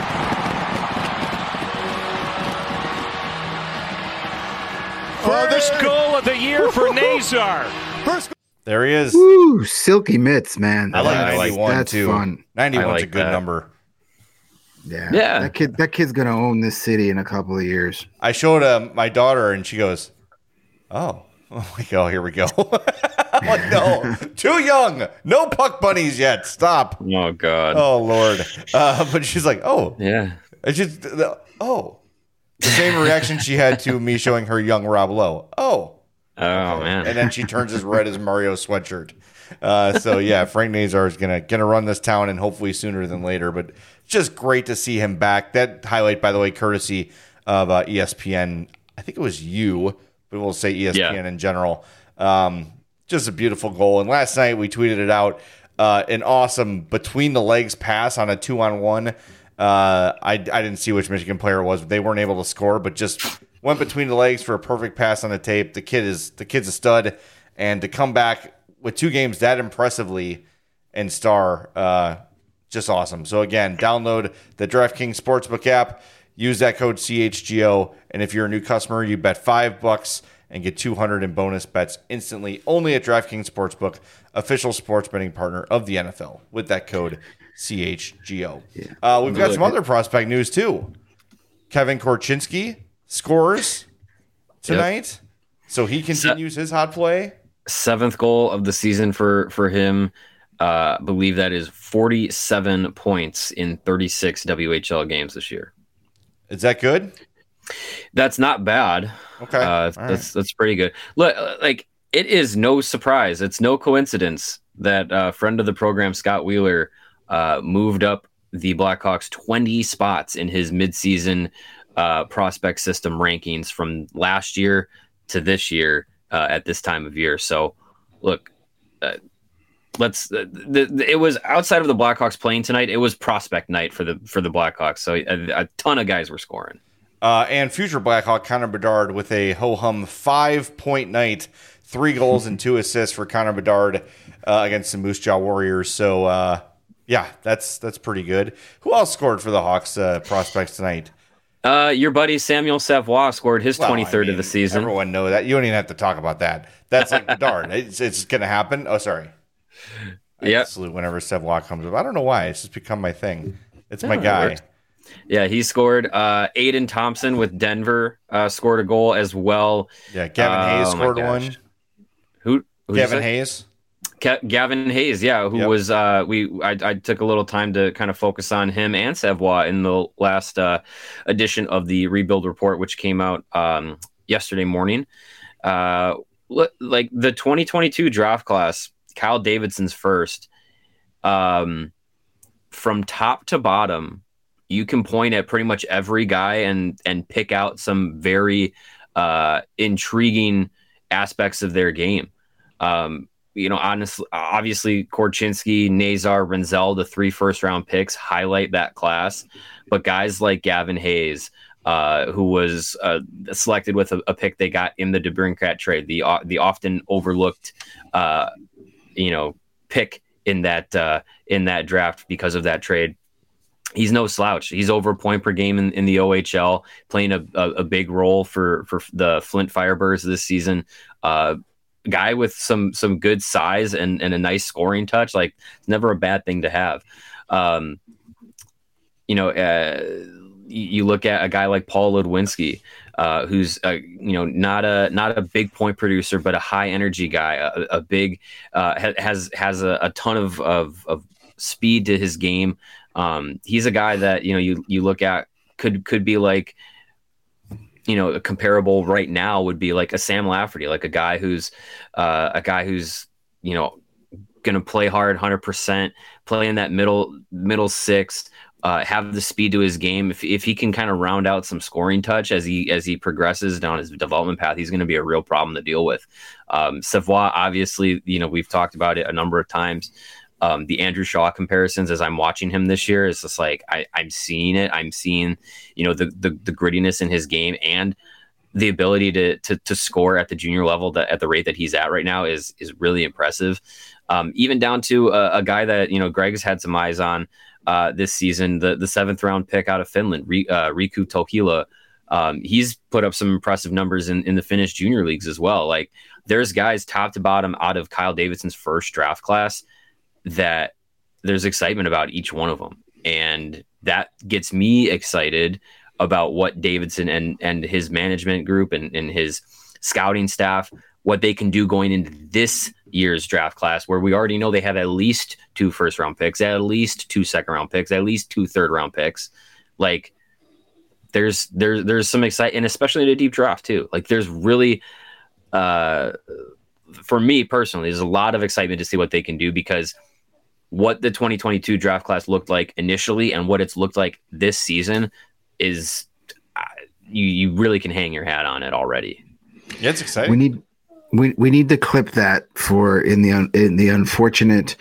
[SPEAKER 4] First goal of the year for Nazar.
[SPEAKER 1] There he is.
[SPEAKER 2] Woo, silky mitts, man.
[SPEAKER 1] I like 91
[SPEAKER 2] that's
[SPEAKER 1] too.
[SPEAKER 2] Fun.
[SPEAKER 1] 91's a good number.
[SPEAKER 2] Yeah. That kid's gonna own this city in a couple of years.
[SPEAKER 1] I showed my daughter, and she goes, "Oh, here we go." I'm like, no, too young. No puck bunnies yet. Stop.
[SPEAKER 3] Oh God.
[SPEAKER 1] Oh Lord. But she's like, oh
[SPEAKER 3] yeah.
[SPEAKER 1] It's just the same reaction she had to me showing her young Rob Lowe. Oh man. And then she turns as red as Mario's sweatshirt. So yeah, Frank Nazar is gonna run this town, and hopefully sooner than later. But it's just great to see him back. That highlight, by the way, courtesy of ESPN. I think it was you, but we'll say ESPN in general. Just a beautiful goal. And last night we tweeted it out. An awesome between the legs pass on a 2-on-1. I didn't see which Michigan player it was, but they weren't able to score, but just went between the legs for a perfect pass on the tape. The kid's a stud, and to come back with 2 games that impressively and star, just awesome. So again, download the DraftKings Sportsbook app, use that code CHGO, and if you're a new customer, you bet $5 and get $200 in bonus bets instantly, only at DraftKings Sportsbook, official sports betting partner of the NFL, with that code CHGO. Yeah. We've got some other prospect news too. Kevin Korchinski scores tonight, so he continues his hot play.
[SPEAKER 3] 7th goal of the season for him. Believe that is 47 points in 36 WHL games this year.
[SPEAKER 1] Is that good?
[SPEAKER 3] That's not bad.
[SPEAKER 1] Okay,
[SPEAKER 3] that's pretty good. Look, like, it is no surprise. It's no coincidence that friend of the program, Scott Wheeler, moved up the Blackhawks 20 spots in his midseason prospect system rankings from last year to this year at this time of year. So, look, it was outside of the Blackhawks playing tonight. It was prospect night for the Blackhawks. So a ton of guys were scoring.
[SPEAKER 1] And future Blackhawk Connor Bedard with a ho-hum 5-point night, 3 goals and 2 assists for Connor Bedard against the Moose Jaw Warriors. So, that's pretty good. Who else scored for the Hawks prospects tonight?
[SPEAKER 3] Your buddy Samuel Savoie scored his 23rd of the season.
[SPEAKER 1] Everyone knows that. You don't even have to talk about that. That's like Bedard. It's going to happen. Oh, sorry.
[SPEAKER 3] Yeah.
[SPEAKER 1] Salute whenever Savoie comes up. I don't know why. It's just become my thing. It's my guy.
[SPEAKER 3] Yeah, he scored. Aiden Thompson with Denver scored a goal as well.
[SPEAKER 1] Yeah, Gavin Hayes scored one.
[SPEAKER 3] Who
[SPEAKER 1] Gavin Hayes?
[SPEAKER 3] Gavin Hayes, who was I took a little time to kind of focus on him and Savoie in the last edition of the Rebuild Report, which came out yesterday morning. Like the 2022 draft class, Kyle Davidson's first. From top to bottom, you can point at pretty much every guy and pick out some very intriguing aspects of their game. Honestly, obviously, Korchinski, Nazar, Renzel, the 3 first-round picks highlight that class. But guys like Gavin Hayes, who was selected with a pick they got in the DeBrincat trade, the often overlooked, pick in that draft because of that trade. He's no slouch. He's over a point per game in the OHL, playing a big role for the Flint Firebirds this season. Guy with some good size and a nice scoring touch. Like, it's never a bad thing to have. You look at a guy like Paul Ludwinski, who's not a big point producer, but a high energy guy. A big has a ton of speed to his game. He's a guy that, you look at could be like, a comparable right now would be like a Sam Lafferty, like a guy who's going to play hard 100%, play in that middle six, have the speed to his game. If he can kind of round out some scoring touch as he progresses down his development path, he's going to be a real problem to deal with. Savoie, obviously, we've talked about it a number of times. The Andrew Shaw comparisons as I'm watching him this year is just like I'm seeing it. I'm seeing, the grittiness in his game and the ability to score at the junior level at the rate that he's at right now is really impressive. Even down to a guy that Greg's had some eyes on this season, the 7th round pick out of Finland, Riku Tokila. He's put up some impressive numbers in the Finnish junior leagues as well. Like there's guys top to bottom out of Kyle Davidson's first draft class that there's excitement about each one of them, and that gets me excited about what Davidson and his management group and his scouting staff, what they can do going into this year's draft class, where we already know they have at least 2 first-round picks, at least 2 second-round picks, at least 2 third-round picks. Like, there's some excitement, and especially in a deep draft too. Like, there's really, for me personally, there's a lot of excitement to see what they can do, because what the 2022 draft class looked like initially and what it's looked like this season is, you really can hang your hat on it already.
[SPEAKER 1] Yeah, it's exciting.
[SPEAKER 2] We need to clip that for in the unfortunate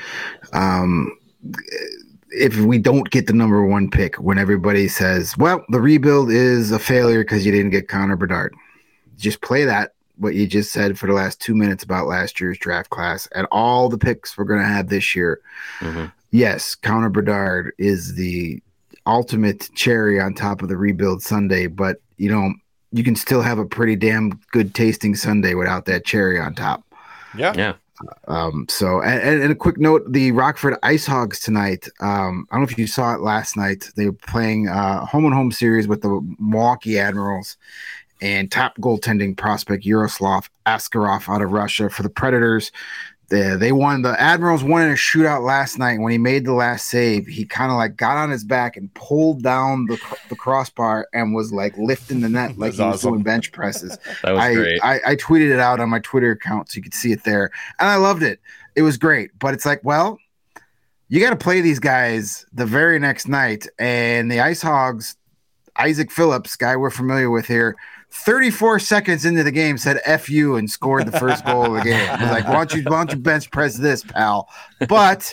[SPEAKER 2] if we don't get the number 1 pick, when everybody says, well, the rebuild is a failure because you didn't get Connor Bedard. Just play that, what you just said for the last 2 minutes about last year's draft class and all the picks we're going to have this year. Mm-hmm. Yes, Connor Bedard is the ultimate cherry on top of the rebuild sundae, but you can still have a pretty damn good tasting sundae without that cherry on top.
[SPEAKER 3] Yeah.
[SPEAKER 2] So, and a quick note, the Rockford Ice Hogs tonight, I don't know if you saw it last night. They were playing home and home series with the Milwaukee Admirals, and top goaltending prospect Yaroslav Askarov out of Russia for the Predators. They won. The Admirals won in a shootout last night. When he made the last save, he kind of like got on his back and pulled down the crossbar and was like lifting the net like he was doing bench presses.
[SPEAKER 3] That was great.
[SPEAKER 2] I tweeted it out on my Twitter account so you could see it there, and I loved it. It was great, but it's like, well, you got to play these guys the very next night, and the Ice Hogs, Isaac Phillips, guy we're familiar with here, 34 seconds into the game said F you and scored the first goal of the game. I was like, why don't you bench press this, pal? But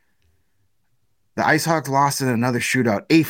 [SPEAKER 2] the Ice Hogs lost in another shootout, a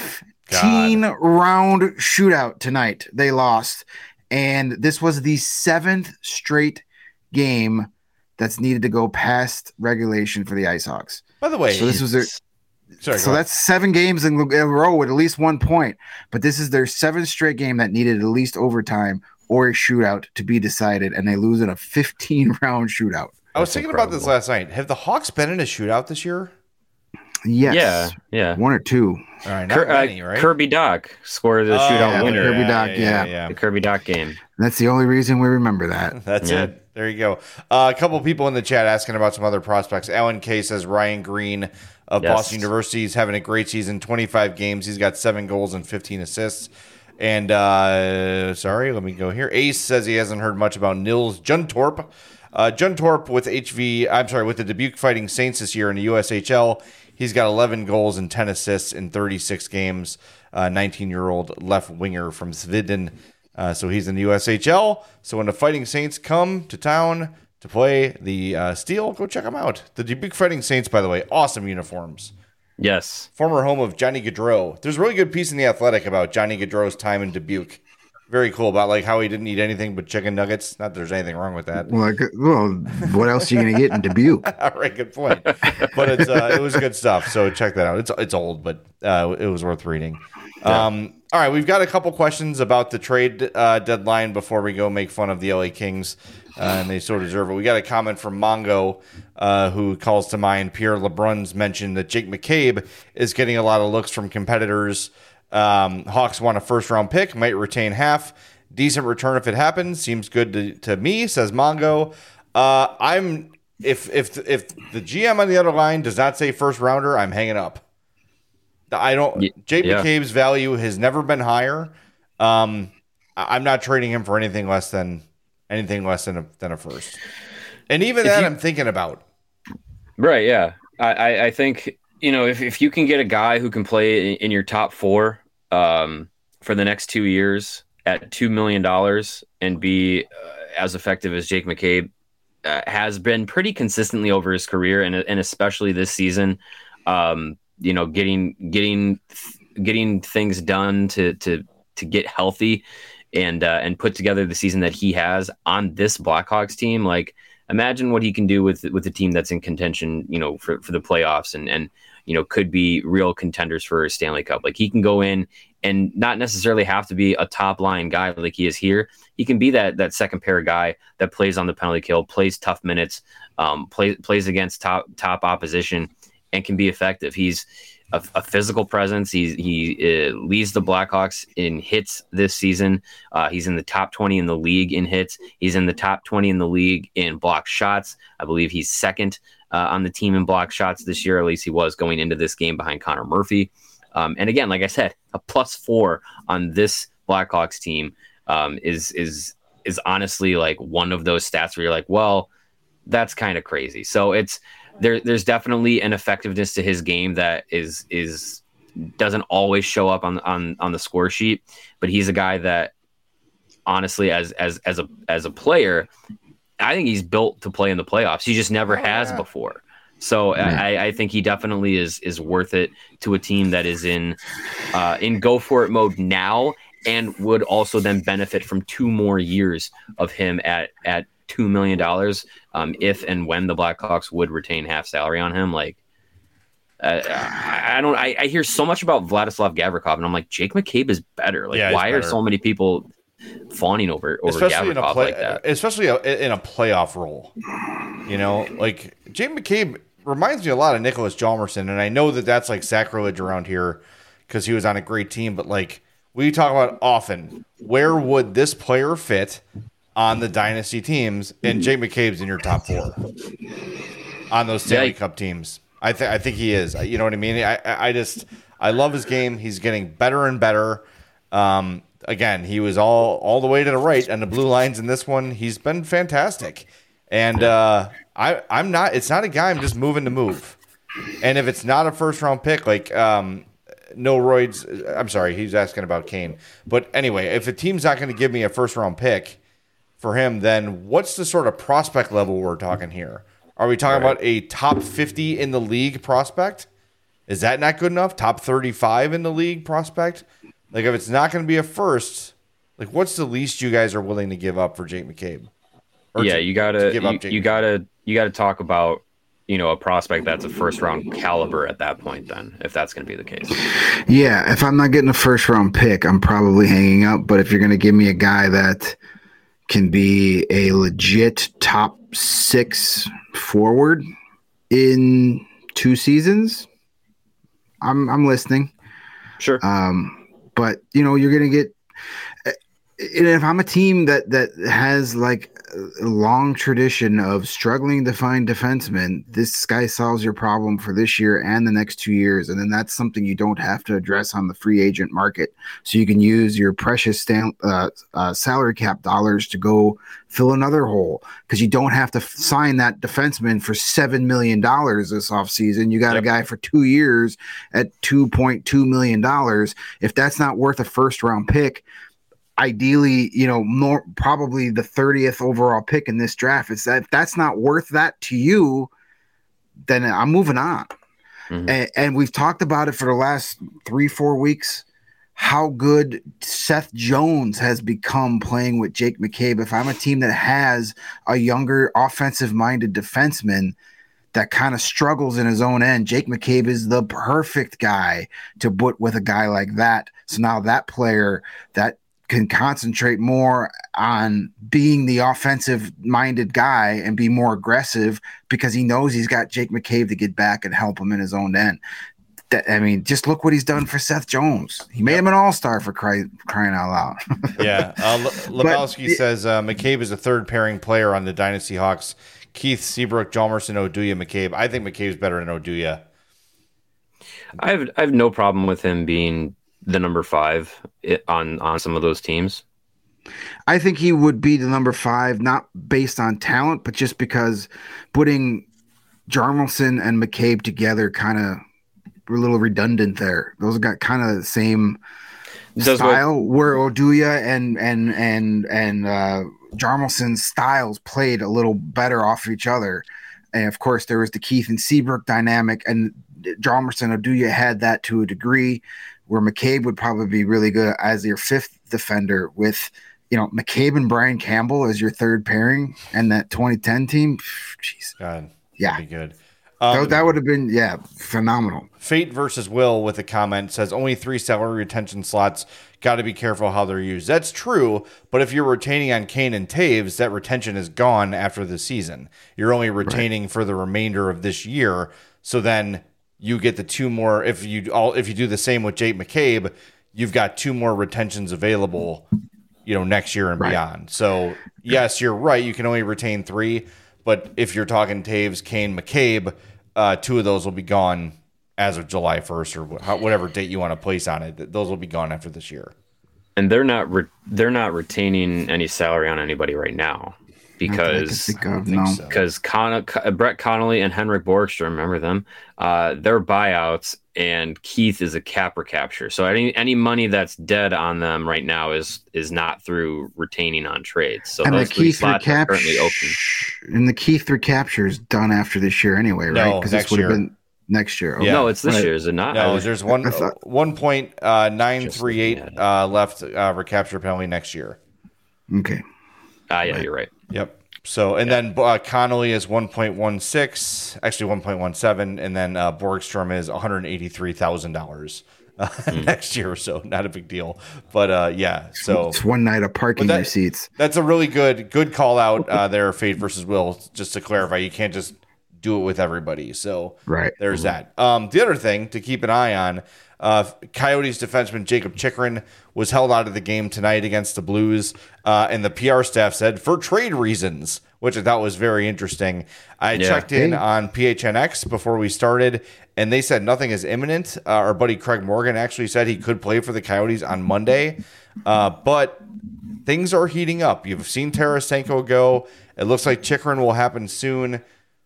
[SPEAKER 2] 15-round shootout tonight. They lost, and this was the 7th straight game that's needed to go past regulation for the Ice Hogs.
[SPEAKER 1] By the way,
[SPEAKER 2] so this was their
[SPEAKER 1] Sorry,
[SPEAKER 2] so that's 7 games in a row with at least 1 point. But this is their 7th straight game that needed at least overtime or a shootout to be decided, and they lose in a 15-round shootout.
[SPEAKER 1] I was thinking about this last night. Have the Hawks been in a shootout this year?
[SPEAKER 2] Yes.
[SPEAKER 3] Yeah.
[SPEAKER 2] 1 or 2.
[SPEAKER 1] All right, not many, right?
[SPEAKER 3] Kirby Dach scored the shootout winner.
[SPEAKER 2] Kirby Dach, yeah.
[SPEAKER 3] The Kirby Dach game.
[SPEAKER 2] That's the only reason we remember that.
[SPEAKER 1] That's it. There you go. A couple people in the chat asking about some other prospects. Alan K says Ryan Green of Boston University is having a great season, 25 games. He's got 7 goals and 15 assists. And let me go here. Ace says he hasn't heard much about Nils Juntorp. Juntorp with the Dubuque Fighting Saints this year in the USHL. He's got 11 goals and 10 assists in 36 games. 19-year-old left winger from Sweden. So he's in the USHL. So when the Fighting Saints come to town to play the Steel, go check them out. The Dubuque Fighting Saints, by the way, awesome uniforms.
[SPEAKER 3] Yes.
[SPEAKER 1] Former home of Johnny Gaudreau. There's a really good piece in The Athletic about Johnny Gaudreau's time in Dubuque. Very cool, about like how he didn't eat anything but chicken nuggets. Not that there's anything wrong with that.
[SPEAKER 2] Well, what else are you going to get in Dubuque?
[SPEAKER 1] All right, good point. But it was good stuff. So check that out. It's old, but it was worth reading. Yeah. All right, we've got a couple questions about the trade deadline before we go make fun of the LA Kings, and they so deserve it. We got a comment from Mongo, who calls to mind Pierre LeBrun's mention that Jake McCabe is getting a lot of looks from competitors. Hawks want a first-round pick, might retain half. Decent return if it happens. Seems good to me, says Mongo. I'm if the GM on the other line does not say first rounder, I'm hanging up. I don't. Jake McCabe's value has never been higher. I'm not trading him for anything less than a first. And even that, I'm thinking about.
[SPEAKER 3] Right. Yeah. I think, if you can get a guy who can play in your top four for the next 2 years at $2 million and be as effective as Jake McCabe has been pretty consistently over his career, and especially this season, getting things done to get healthy and put together the season that he has on this Blackhawks team. Like, imagine what he can do with a team that's in contention, for the playoffs and could be real contenders for a Stanley Cup. Like, he can go in and not necessarily have to be a top line guy like he is here. He can be that second pair guy that plays on the penalty kill, plays tough minutes, plays against top opposition, and can be effective. He's a physical presence. He leads the Blackhawks in hits this season. He's in the top 20 in the league in hits. He's in the top 20 in the league in block shots. I believe he's second on the team in block shots this year. At least he was going into this game behind Connor Murphy. And again, like I said, a +4 on this Blackhawks team is honestly like one of those stats where you're like, well, that's kind of crazy. So there's definitely an effectiveness to his game that doesn't always show up on the score sheet, but he's a guy that honestly, as a player, I think he's built to play in the playoffs. He just never has before. So I think he definitely is worth it to a team that is in go for it mode now, and would also then benefit from 2 more years of him at $2 million if and when the Blackhawks would retain half salary on him. Like, I hear so much about Vladislav Gavrikov, and I'm like, Jake McCabe is better. Like, why are so many people fawning over Gavrikov like that?
[SPEAKER 1] Especially in a playoff role. Like, Jake McCabe reminds me a lot of Nicholas Hjalmarsson, and I know that that's like sacrilege around here because he was on a great team, but like we talk about often, where would this player fit on the dynasty teams? And Jake McCabe's in your top 4 on those Stanley Cup teams. I think he is. You know what I mean? I love his game. He's getting better and better. Again, he was all the way to the right on the blue lines in this one. He's been fantastic. And I'm not. It's not a guy I'm just moving to move. And if it's not a first round pick, like no roids. I'm sorry, he's asking about Kane. But anyway, if a team's not going to give me a first round pick for him, then what's the sort of prospect level we're talking here? Are we talking about a top 50 in the league prospect? Is that not good enough? Top 35 in the league prospect? Like, if it's not going to be a first, like, what's the least you guys are willing to give up for Jake McCabe?
[SPEAKER 3] You gotta talk about a prospect that's a first round caliber at that point. Then, if that's going to be the case,
[SPEAKER 2] yeah. If I'm not getting a first round pick, I'm probably hanging up. But if you're going to give me a guy that can be a legit top 6 forward in 2 seasons, I'm listening.
[SPEAKER 3] Sure.
[SPEAKER 2] But you're going to get. And if I'm a team that has like a long tradition of struggling to find defensemen, this guy solves your problem for this year and the next 2 years. And then that's something you don't have to address on the free agent market. So you can use your precious salary cap dollars to go fill another hole, because you don't have to sign that defenseman for $7 million this offseason. You got a guy for 2 years at $2.2 million. If that's not worth a first round pick, ideally, more probably the 30th overall pick in this draft, is that if that's not worth that to you, then I'm moving on. Mm-hmm. And we've talked about it for the last 3-4 weeks, how good Seth Jones has become playing with Jake McCabe. If I'm a team that has a younger offensive-minded defenseman that kind of struggles in his own end, Jake McCabe is the perfect guy to put with a guy like that. So now that player that can concentrate more on being the offensive-minded guy and be more aggressive, because he knows he's got Jake McCabe to get back and help him in his own end. Just look what he's done for Seth Jones. He made him an all-star, for crying out loud.
[SPEAKER 1] Yeah. Lebowski says McCabe is a third-pairing player on the Dynasty Hawks. Keith, Seabrook, Hjalmarsson, Oduya, McCabe. I think McCabe's better than Oduya.
[SPEAKER 3] I have no problem with him being the number 5 on some of those teams.
[SPEAKER 2] I think he would be the number 5, not based on talent, but just because putting Hjalmarsson and McCabe together kind of were a little redundant there. Those got kind of the same style where Oduya and Hjalmarsson's styles played a little better off of each other. And of course, there was the Keith and Seabrook dynamic, and Hjalmarsson Oduya had that to a degree, where McCabe would probably be really good as your 5th defender with, McCabe and Brian Campbell as your 3rd pairing, and that 2010 team. Jeez,
[SPEAKER 1] God,
[SPEAKER 2] yeah,
[SPEAKER 1] be good.
[SPEAKER 2] That would have been phenomenal.
[SPEAKER 1] Fate versus Will with a comment says only 3 salary retention slots. Got to be careful how they're used. That's true, but if you're retaining on Kane and Taves, that retention is gone after the season. You're only retaining for the remainder of this year. So then you get the 2 more. If you do the same with Jake McCabe, you've got 2 more retentions available, next year and beyond. So yes, you're right. You can only retain 3, but if you're talking Taves, Kane, McCabe, 2 of those will be gone as of July 1st or whatever date you want to place on it. Those will be gone after this year.
[SPEAKER 3] And they're not retaining any salary on anybody right now because Brett Connolly and Henrik Borgstrom, remember them? They're buyouts, and Keith is a cap recapture. So any money that's dead on them right now is not through retaining on trades. So
[SPEAKER 2] and
[SPEAKER 3] those 3 slots are currently open.
[SPEAKER 2] And the Keith recapture is done after this year anyway, right? Because this would have been next year.
[SPEAKER 3] Okay. Yeah. No, it's this year, is it not?
[SPEAKER 1] No, there's 1.938 left recapture penalty next year.
[SPEAKER 2] Okay.
[SPEAKER 3] You're right.
[SPEAKER 1] Yep. So, and then Connolly is 1.16, actually 1.17, and then Borgstrom is $183,000 next year. So not a big deal, but so
[SPEAKER 2] it's one night of parking receipts.
[SPEAKER 1] That's a really good call out there. Fate versus Will. Just to clarify, you can't just do it with everybody. So there's that. The other thing to keep an eye on, Coyotes defenseman Jacob Chychrun was held out of the game tonight against the Blues, and the PR staff said for trade reasons, which I thought was very interesting. I checked in on PHNX before we started, and they said nothing is imminent. Our buddy Craig Morgan actually said he could play for the Coyotes on Monday, but things are heating up. You've seen Tarasenko go. It looks like Chychrun will happen soon.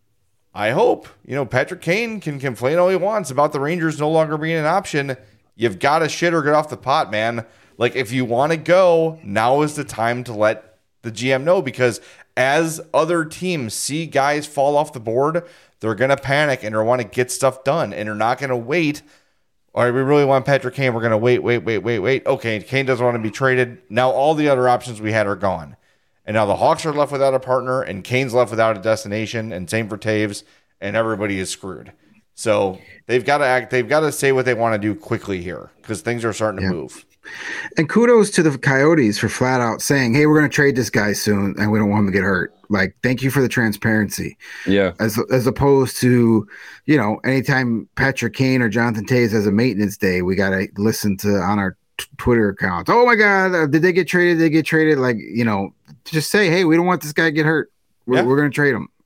[SPEAKER 1] I hope, Patrick Kane can complain all he wants about the Rangers no longer being an option. You've got to shit or get off the pot, man. Like, if you want to go, now is the time to let the GM know, because as other teams see guys fall off the board, they're going to panic and they want to get stuff done, and they're not going to wait. All right, we really want Patrick Kane. We're going to wait. Okay, Kane doesn't want to be traded. Now all the other options we had are gone. And now the Hawks are left without a partner, and Kane's left without a destination, and same for Taves, and everybody is screwed. So they've got to act. They've got to say what they want to do quickly here, because things are starting to move.
[SPEAKER 2] And kudos to the Coyotes for flat out saying, "Hey, we're going to trade this guy soon, and we don't want him to get hurt." Like, thank you for the transparency.
[SPEAKER 3] Yeah.
[SPEAKER 2] As opposed to, anytime Patrick Kane or Jonathan Taves has a maintenance day, we got to listen to on our Twitter accounts. Oh my God, did they get traded? They get traded. Like, just say, hey, we don't want this guy to get hurt. We're going to trade him.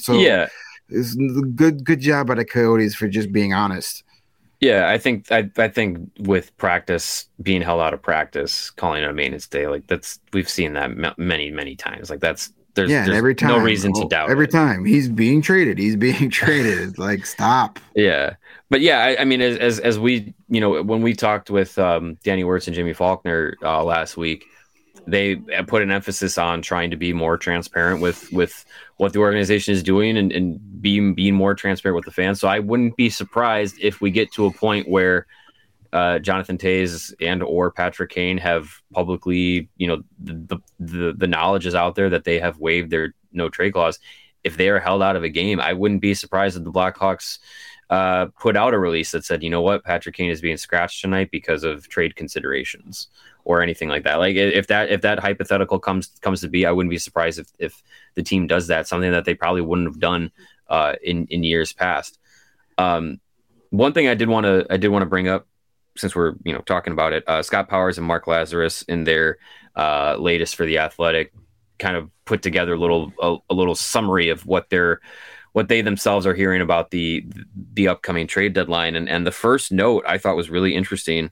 [SPEAKER 2] It's good job by the Coyotes for just being honest.
[SPEAKER 3] Yeah, I think with practice being held out of practice, calling it a maintenance day, like we've seen that many times. Like there's
[SPEAKER 2] every time,
[SPEAKER 3] no reason to doubt.
[SPEAKER 2] Every time he's being traded, like, stop.
[SPEAKER 3] Yeah, but I mean, as we when we talked with Danny Wirtz and Jimmy Faulkner last week, they put an emphasis on trying to be more transparent with what the organization is doing and being more transparent with the fans. So I wouldn't be surprised if we get to a point where Jonathan Taves and or Patrick Kane have publicly, the knowledge is out there that they have waived their no trade clause. If they are held out of a game, I wouldn't be surprised if the Blackhawks put out a release that said, you know what, Patrick Kane is being scratched tonight because of trade considerations or anything like that. Like if that hypothetical comes to be, I wouldn't be surprised if the team does that, something that they probably wouldn't have done in years past. One thing I did want to bring up, since we're talking about it, Scott Powers and Mark Lazarus in their latest for The Athletic kind of put together a little summary of what they themselves are hearing about the upcoming trade deadline. And the first note I thought was really interesting.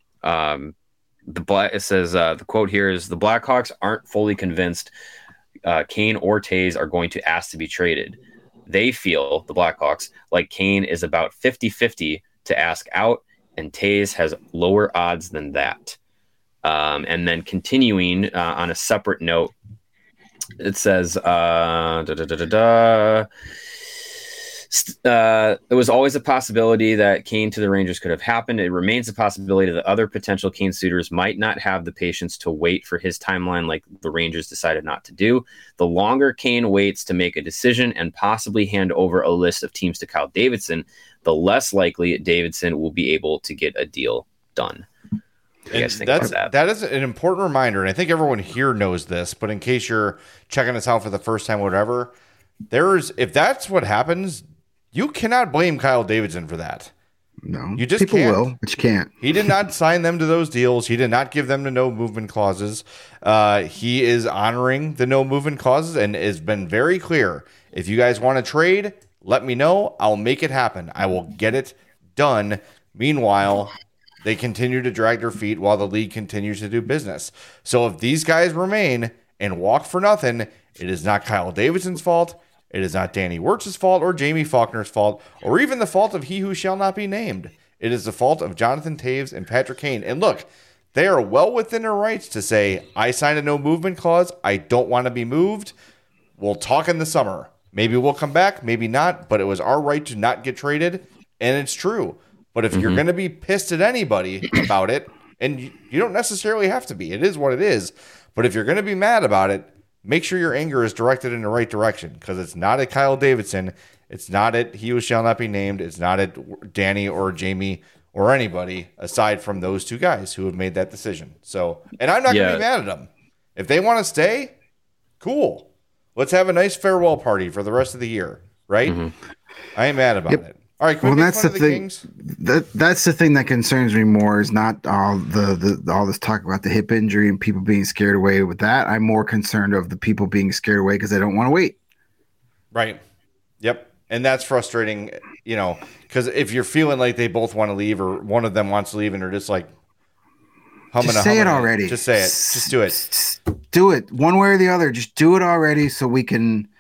[SPEAKER 3] It says the quote here is, the Blackhawks aren't fully convinced Kane or Toews are going to ask to be traded. They feel, the Blackhawks, like Kane is about 50-50 to ask out, and Toews has lower odds than that. And then continuing on a separate note, it says, it was always a possibility that Kane to the Rangers could have happened. It remains a possibility that other potential Kane suitors might not have the patience to wait for his timeline like the Rangers decided not to do. The longer Kane waits to make a decision and possibly hand over a list of teams to Kyle Davidson, the less likely Davidson will be able to get a deal done.
[SPEAKER 1] That is an important reminder, and I think everyone here knows this, but in case you're checking us out for the first time, whatever, if that's what happens, you cannot blame Kyle Davidson for that.
[SPEAKER 2] No,
[SPEAKER 1] you just
[SPEAKER 2] people
[SPEAKER 1] can't.
[SPEAKER 2] will, but you can't.
[SPEAKER 1] He did not sign them to those deals. He did not give them the no movement clauses. He is honoring the no movement clauses and has been very clear. If you guys want to trade, let me know. I'll make it happen. I will get it done. Meanwhile, they continue to drag their feet while the league continues to do business. So if these guys remain and walk for nothing, it is not Kyle Davidson's fault. It is not Danny Wirtz's fault or Jamie Faulkner's fault or even the fault of he who shall not be named. It is the fault of Jonathan Toews and Patrick Kane. And look, they are well within their rights to say, I signed a no movement clause. I don't want to be moved. We'll talk in the summer. Maybe we'll come back, maybe not, but it was our right to not get traded. And it's true. But if you're going to be pissed at anybody about it, and you don't necessarily have to be, it is what it is. But if you're going to be mad about it, make sure your anger is directed in the right direction, because it's not at Kyle Davidson. It's not at he who shall not be named. It's not at Danny or Jamie or anybody aside from those two guys who have made that decision. So, and I'm not going to be mad at them. If they want to stay, cool. Let's have a nice farewell party for the rest of the year, right? I ain't mad about it. All right,
[SPEAKER 2] well, that's the thing. That's the thing that concerns me more is not all all this talk about the hip injury and people being scared away with that. I'm more concerned of the people being scared away because they don't want to wait.
[SPEAKER 1] Right. Yep. And that's frustrating, because if you're feeling like they both want to leave or one of them wants to leave and they're just like humming
[SPEAKER 2] just say it already.
[SPEAKER 1] Just say it. Just do it.
[SPEAKER 2] Do it one way or the other. Just do it already so we can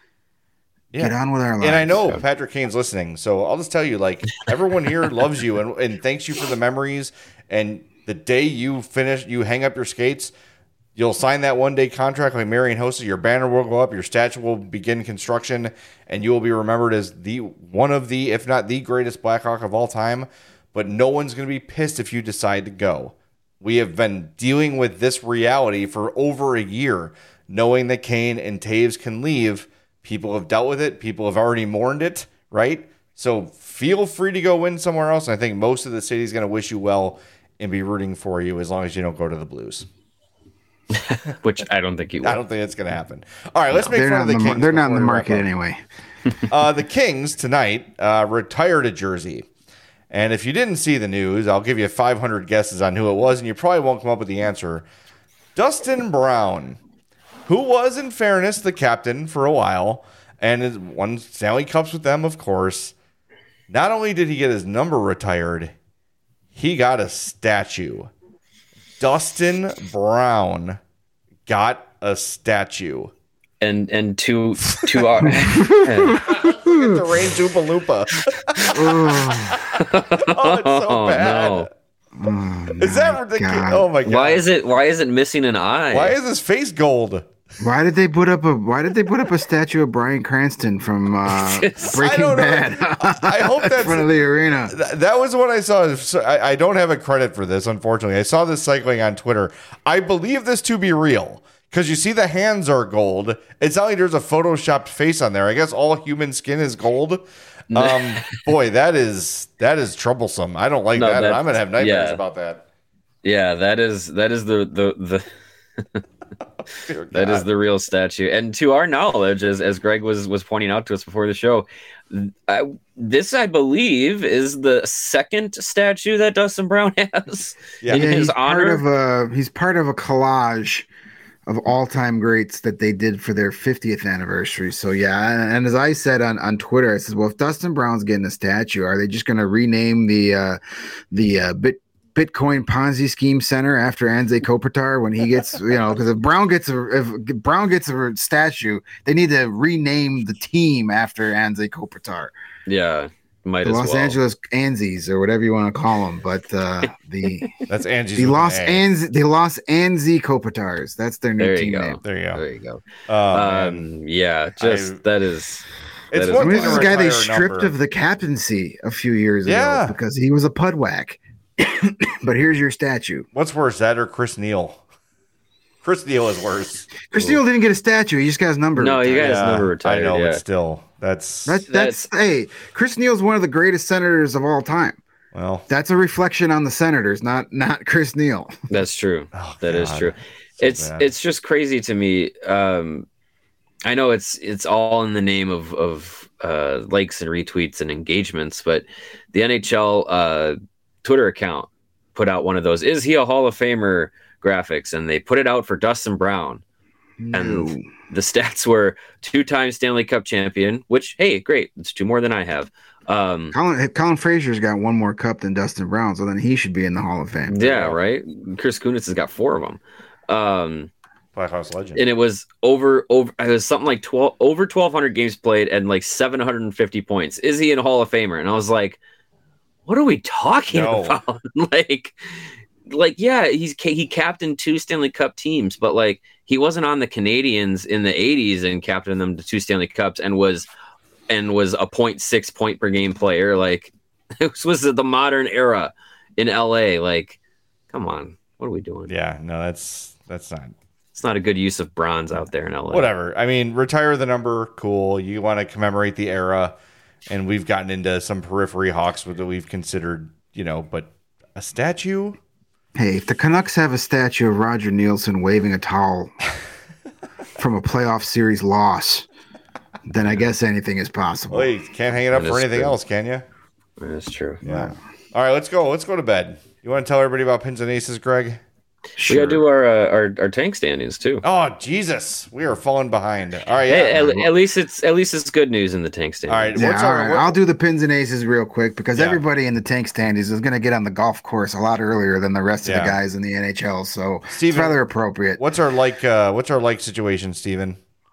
[SPEAKER 2] get on with our lives.
[SPEAKER 1] And I know Patrick Kane's listening, so I'll just tell you, everyone here loves you and thanks you for the memories. And the day you hang up your skates, you'll sign that one-day contract like Marian Hossa. Your banner will go up, your statue will begin construction, and you will be remembered as one of the, if not the greatest Blackhawk of all time. But no one's going to be pissed if you decide to go. We have been dealing with this reality for over a year, knowing that Kane and Toews can leave. People have dealt with it. People have already mourned it, right? So feel free to go win somewhere else. And I think most of the city is going to wish you well and be rooting for you as long as you don't go to the Blues.
[SPEAKER 3] Which I don't think you will.
[SPEAKER 1] I don't think it's going to happen. All right, let's make fun of the Kings.
[SPEAKER 2] They're not in the market anyway.
[SPEAKER 1] The Kings tonight retired a jersey. And if you didn't see the news, I'll give you 500 guesses on who it was, and you probably won't come up with the answer. Dustin Brown, who was, in fairness, the captain for a while and won Stanley Cups with them, of course. Not only did he get his number retired, he got a statue. Dustin Brown got a statue.
[SPEAKER 3] And to our
[SPEAKER 1] look at the Rain Zoompa Loompa. Oh, it's so bad.
[SPEAKER 3] No.
[SPEAKER 1] Is that ridiculous?
[SPEAKER 2] God.
[SPEAKER 1] Oh my god!
[SPEAKER 3] Why is it missing an eye?
[SPEAKER 1] Why is his face gold?
[SPEAKER 2] Why did they put up a statue of Bryan Cranston from Breaking Bad?
[SPEAKER 1] I hope that's
[SPEAKER 2] in front of the arena.
[SPEAKER 1] That was what I saw. I don't have a credit for this, unfortunately. I saw this cycling on Twitter. I believe this to be real because you see the hands are gold. It's not like there's a photoshopped face on there. I guess all human skin is gold. Boy, that is troublesome. I don't like that. And I'm gonna have nightmares about that.
[SPEAKER 3] Yeah, that is the that is the real statue. And to our knowledge, as Greg was pointing out to us before the show, this I believe is the second statue that Dustin Brown has in his honor.
[SPEAKER 2] He's part of a collage of all-time greats that they did for their 50th anniversary. So yeah, and as I said on Twitter, I said, well, if Dustin Brown's getting a statue, are they just going to rename the Bitcoin Ponzi scheme center after Anze Kopitar when he gets, because if Brown gets a statue, they need to rename the team after Anze Kopitar.
[SPEAKER 3] Yeah. Might
[SPEAKER 2] the
[SPEAKER 3] as
[SPEAKER 2] Los
[SPEAKER 3] well.
[SPEAKER 2] Angeles Anzes or whatever you want to call them, but
[SPEAKER 1] that's Angie's
[SPEAKER 2] the Los Anze Kopitars. That's their new team name.
[SPEAKER 1] There you go.
[SPEAKER 3] Yeah, that is.
[SPEAKER 1] It's
[SPEAKER 2] I mean, this is a guy they stripped of the captaincy a few years ago because he was a pudwhack. But here's your statue.
[SPEAKER 1] What's worse, that or Chris Neal? Chris Neal is worse.
[SPEAKER 2] Chris Neal didn't get a statue. He just got his number.
[SPEAKER 3] No, he got his number retired.
[SPEAKER 1] I know,
[SPEAKER 3] but
[SPEAKER 1] still, that's
[SPEAKER 2] hey, Chris Neal's one of the greatest senators of all time.
[SPEAKER 1] Well,
[SPEAKER 2] that's a reflection on the Senators, not Chris Neal.
[SPEAKER 3] That's true. That is true.
[SPEAKER 1] So
[SPEAKER 3] it's just crazy to me. I know it's all in the name of likes and retweets and engagements, but the NHL Twitter account put out one of those. Is he a Hall of Famer? Graphics, and they put it out for Dustin Brown.
[SPEAKER 2] No.
[SPEAKER 3] And the stats were 2-time Stanley Cup champion, which, hey, great. It's 2 more than I have.
[SPEAKER 2] Colin Frazier's got 1 more cup than Dustin Brown, so then he should be in the Hall of Fame.
[SPEAKER 3] Yeah, right? Chris Kunitz has got 4 of them.
[SPEAKER 1] Blackhawks legend.
[SPEAKER 3] And it was over it was something like over 1,200 games played and like 750 points. Is he in a Hall of Famer? And I was like, what are we talking about? Yeah, he captained 2 Stanley Cup teams, but like he wasn't on the Canadiens in the 80s and captained them to 2 Stanley Cups and was a 0.6 point per game player. Like this was the modern era in LA. Like, come on, what are we doing?
[SPEAKER 1] Yeah, no, that's not.
[SPEAKER 3] It's not a good use of bronze out there in LA.
[SPEAKER 1] Whatever. I mean, retire the number, cool. You want to commemorate the era, and we've gotten into some periphery Hawks that we've considered, but a statue.
[SPEAKER 2] Hey, if the Canucks have a statue of Roger Nielsen waving a towel from a playoff series loss, then I guess anything is possible.
[SPEAKER 1] Well, you can't hang it up for anything else, can you?
[SPEAKER 3] That's true.
[SPEAKER 1] Yeah. All right, let's go. Let's go to bed. You want to tell everybody about Pins and Aces, Greg?
[SPEAKER 3] Sure. We got to do our tank standings too.
[SPEAKER 1] Oh Jesus, we are falling behind. All right,
[SPEAKER 3] hey, at least it's good news in the tank standings.
[SPEAKER 1] All right,
[SPEAKER 2] I'll do the Pins and Aces real quick because everybody in the tank standings is going to get on the golf course a lot earlier than the rest of the guys in the NHL. So Steven, it's rather appropriate.
[SPEAKER 1] What's our like situation, Steven?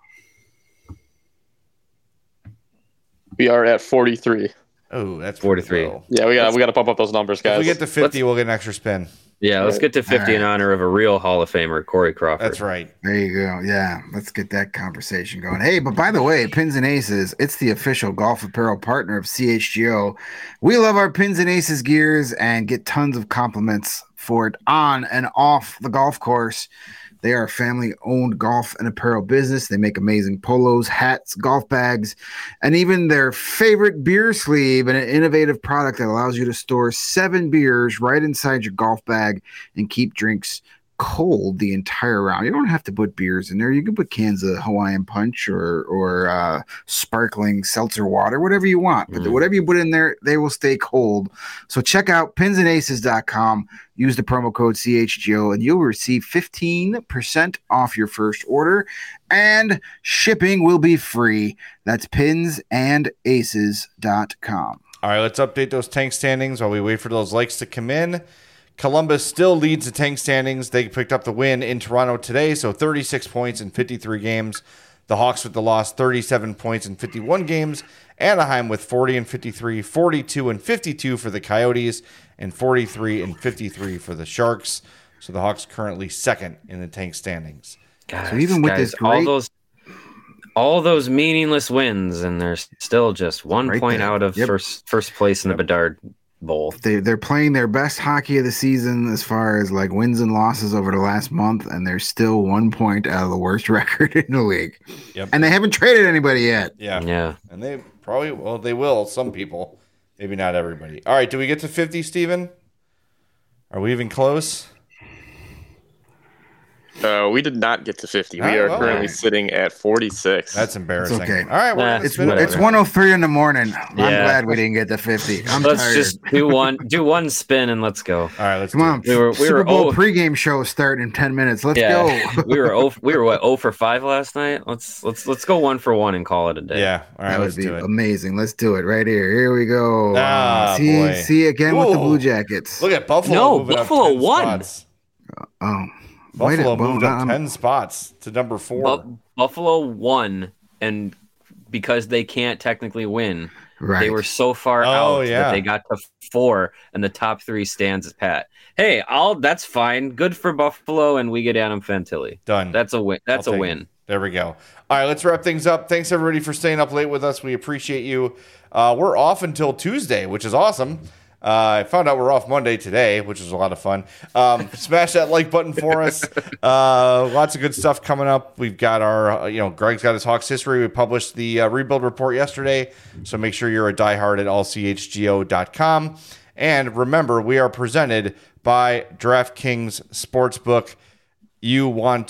[SPEAKER 5] We are at 43.
[SPEAKER 1] Oh, that's
[SPEAKER 3] 43.
[SPEAKER 1] Low.
[SPEAKER 5] Yeah, we got to pump up those numbers, guys.
[SPEAKER 1] If we get to 50, we'll get an extra spin.
[SPEAKER 3] Yeah, let's get to 50 in honor of a real Hall of Famer, Corey Crawford.
[SPEAKER 1] That's right.
[SPEAKER 2] There you go. Yeah, let's get that conversation going. Hey, but by the way, Pins and Aces, it's the official golf apparel partner of CHGO. We love our Pins and Aces gears and get tons of compliments for it on and off the golf course. They are a family-owned golf and apparel business. They make amazing polos, hats, golf bags, and even their favorite beer sleeve, an innovative product that allows you to store 7 beers right inside your golf bag and keep drinks cold the entire round. You don't have to put beers in there. You can put cans of Hawaiian Punch or sparkling seltzer water, whatever you want. But whatever you put in there, they will stay cold. So check out pinsandaces.com. Use the promo code CHGO, and you'll receive 15% off your first order, and shipping will be free. That's pinsandaces.com.
[SPEAKER 1] All right, let's update those tank standings while we wait for those likes to come in. Columbus still leads the tank standings. They picked up the win in Toronto today, so 36 points in 53 games. The Hawks with the loss, 37 points in 51 games. Anaheim with 40 and 53, 42 and 52 for the Coyotes, and 43 and 53 for the Sharks. So the Hawks currently second in the tank standings.
[SPEAKER 2] Gosh, so even with this great...
[SPEAKER 3] all those meaningless wins, and they're still just 1 point out of first place in the Bedard Bowl.
[SPEAKER 2] They're playing their best hockey of the season as far as like wins and losses over the last month, and they're still 1 point out of the worst record in the league.
[SPEAKER 1] Yep.
[SPEAKER 2] And they haven't traded anybody yet.
[SPEAKER 3] Yeah.
[SPEAKER 1] And they probably they will. Some people, maybe not everybody. All right, do we get to 50, Steven? Are we even close?
[SPEAKER 5] We did not get to 50.
[SPEAKER 1] All
[SPEAKER 5] We
[SPEAKER 1] right,
[SPEAKER 5] are
[SPEAKER 1] well,
[SPEAKER 5] currently sitting at 46.
[SPEAKER 1] That's embarrassing.
[SPEAKER 2] It's okay.
[SPEAKER 1] All right, well,
[SPEAKER 2] It's 1:03 in the morning. I'm glad we didn't get to 50.
[SPEAKER 3] Let's
[SPEAKER 2] tired.
[SPEAKER 3] just do one spin and let's go.
[SPEAKER 1] All right, let's
[SPEAKER 2] Come on.
[SPEAKER 3] We were
[SPEAKER 2] Super Bowl pregame show starting in 10 minutes. Let's go.
[SPEAKER 3] we were what 0 for 5 last night. Let's go 1 for 1 and call it a day.
[SPEAKER 1] Yeah. All right,
[SPEAKER 2] That would
[SPEAKER 1] let's
[SPEAKER 2] be
[SPEAKER 1] do it.
[SPEAKER 2] amazing. Let's do it right here. Here we go.
[SPEAKER 1] Boy.
[SPEAKER 2] See again with the
[SPEAKER 1] Whoa.
[SPEAKER 2] Blue Jackets.
[SPEAKER 1] Look at Buffalo.
[SPEAKER 3] No,
[SPEAKER 1] moving
[SPEAKER 3] Buffalo
[SPEAKER 1] up 10
[SPEAKER 3] won.
[SPEAKER 1] spots.
[SPEAKER 2] Buffalo
[SPEAKER 1] Moved up 10 spots to number 4.
[SPEAKER 3] Buffalo won, and because they can't technically win,
[SPEAKER 2] Right.
[SPEAKER 3] they were so far out that they got to 4, and the top 3 stands as pat. Hey, that's fine. Good for Buffalo, and we get Adam Fantilli.
[SPEAKER 1] Done.
[SPEAKER 3] That's a win. That's a win.
[SPEAKER 1] There we go. All right, let's wrap things up. Thanks, everybody, for staying up late with us. We appreciate you. We're off until Tuesday, which is awesome. I found out we're off Monday today, which is a lot of fun. Smash that like button for us. Lots of good stuff coming up. We've got our, Greg's got his Hawks history. We published the rebuild report yesterday, so make sure you're a diehard at allchgo.com. And remember, we are presented by DraftKings Sportsbook. I'm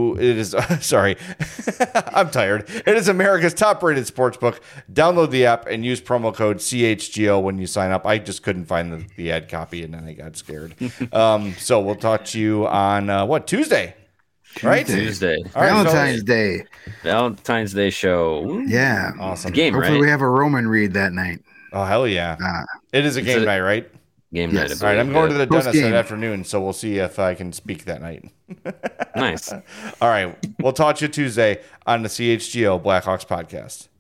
[SPEAKER 1] tired. It is America's top-rated sportsbook. Download the app and use promo code CHGO when you sign up. I just couldn't find the ad copy, and then I got scared. So we'll talk to you on, Tuesday? Right?
[SPEAKER 3] Tuesday.
[SPEAKER 1] All right,
[SPEAKER 2] Valentine's Day.
[SPEAKER 3] Valentine's Day show.
[SPEAKER 2] Yeah.
[SPEAKER 1] Awesome.
[SPEAKER 3] Game,
[SPEAKER 2] Hopefully
[SPEAKER 3] right?
[SPEAKER 2] we have a Roman read that night.
[SPEAKER 1] Oh, hell yeah. It is a game night, right?
[SPEAKER 3] Game
[SPEAKER 2] Yes.
[SPEAKER 3] night.
[SPEAKER 1] All right, I'm going to the dentist
[SPEAKER 2] Post-game.
[SPEAKER 1] that afternoon, so we'll see if I can speak that night.
[SPEAKER 3] Nice.
[SPEAKER 1] All right, we'll talk to you Tuesday on the CHGO Blackhawks podcast.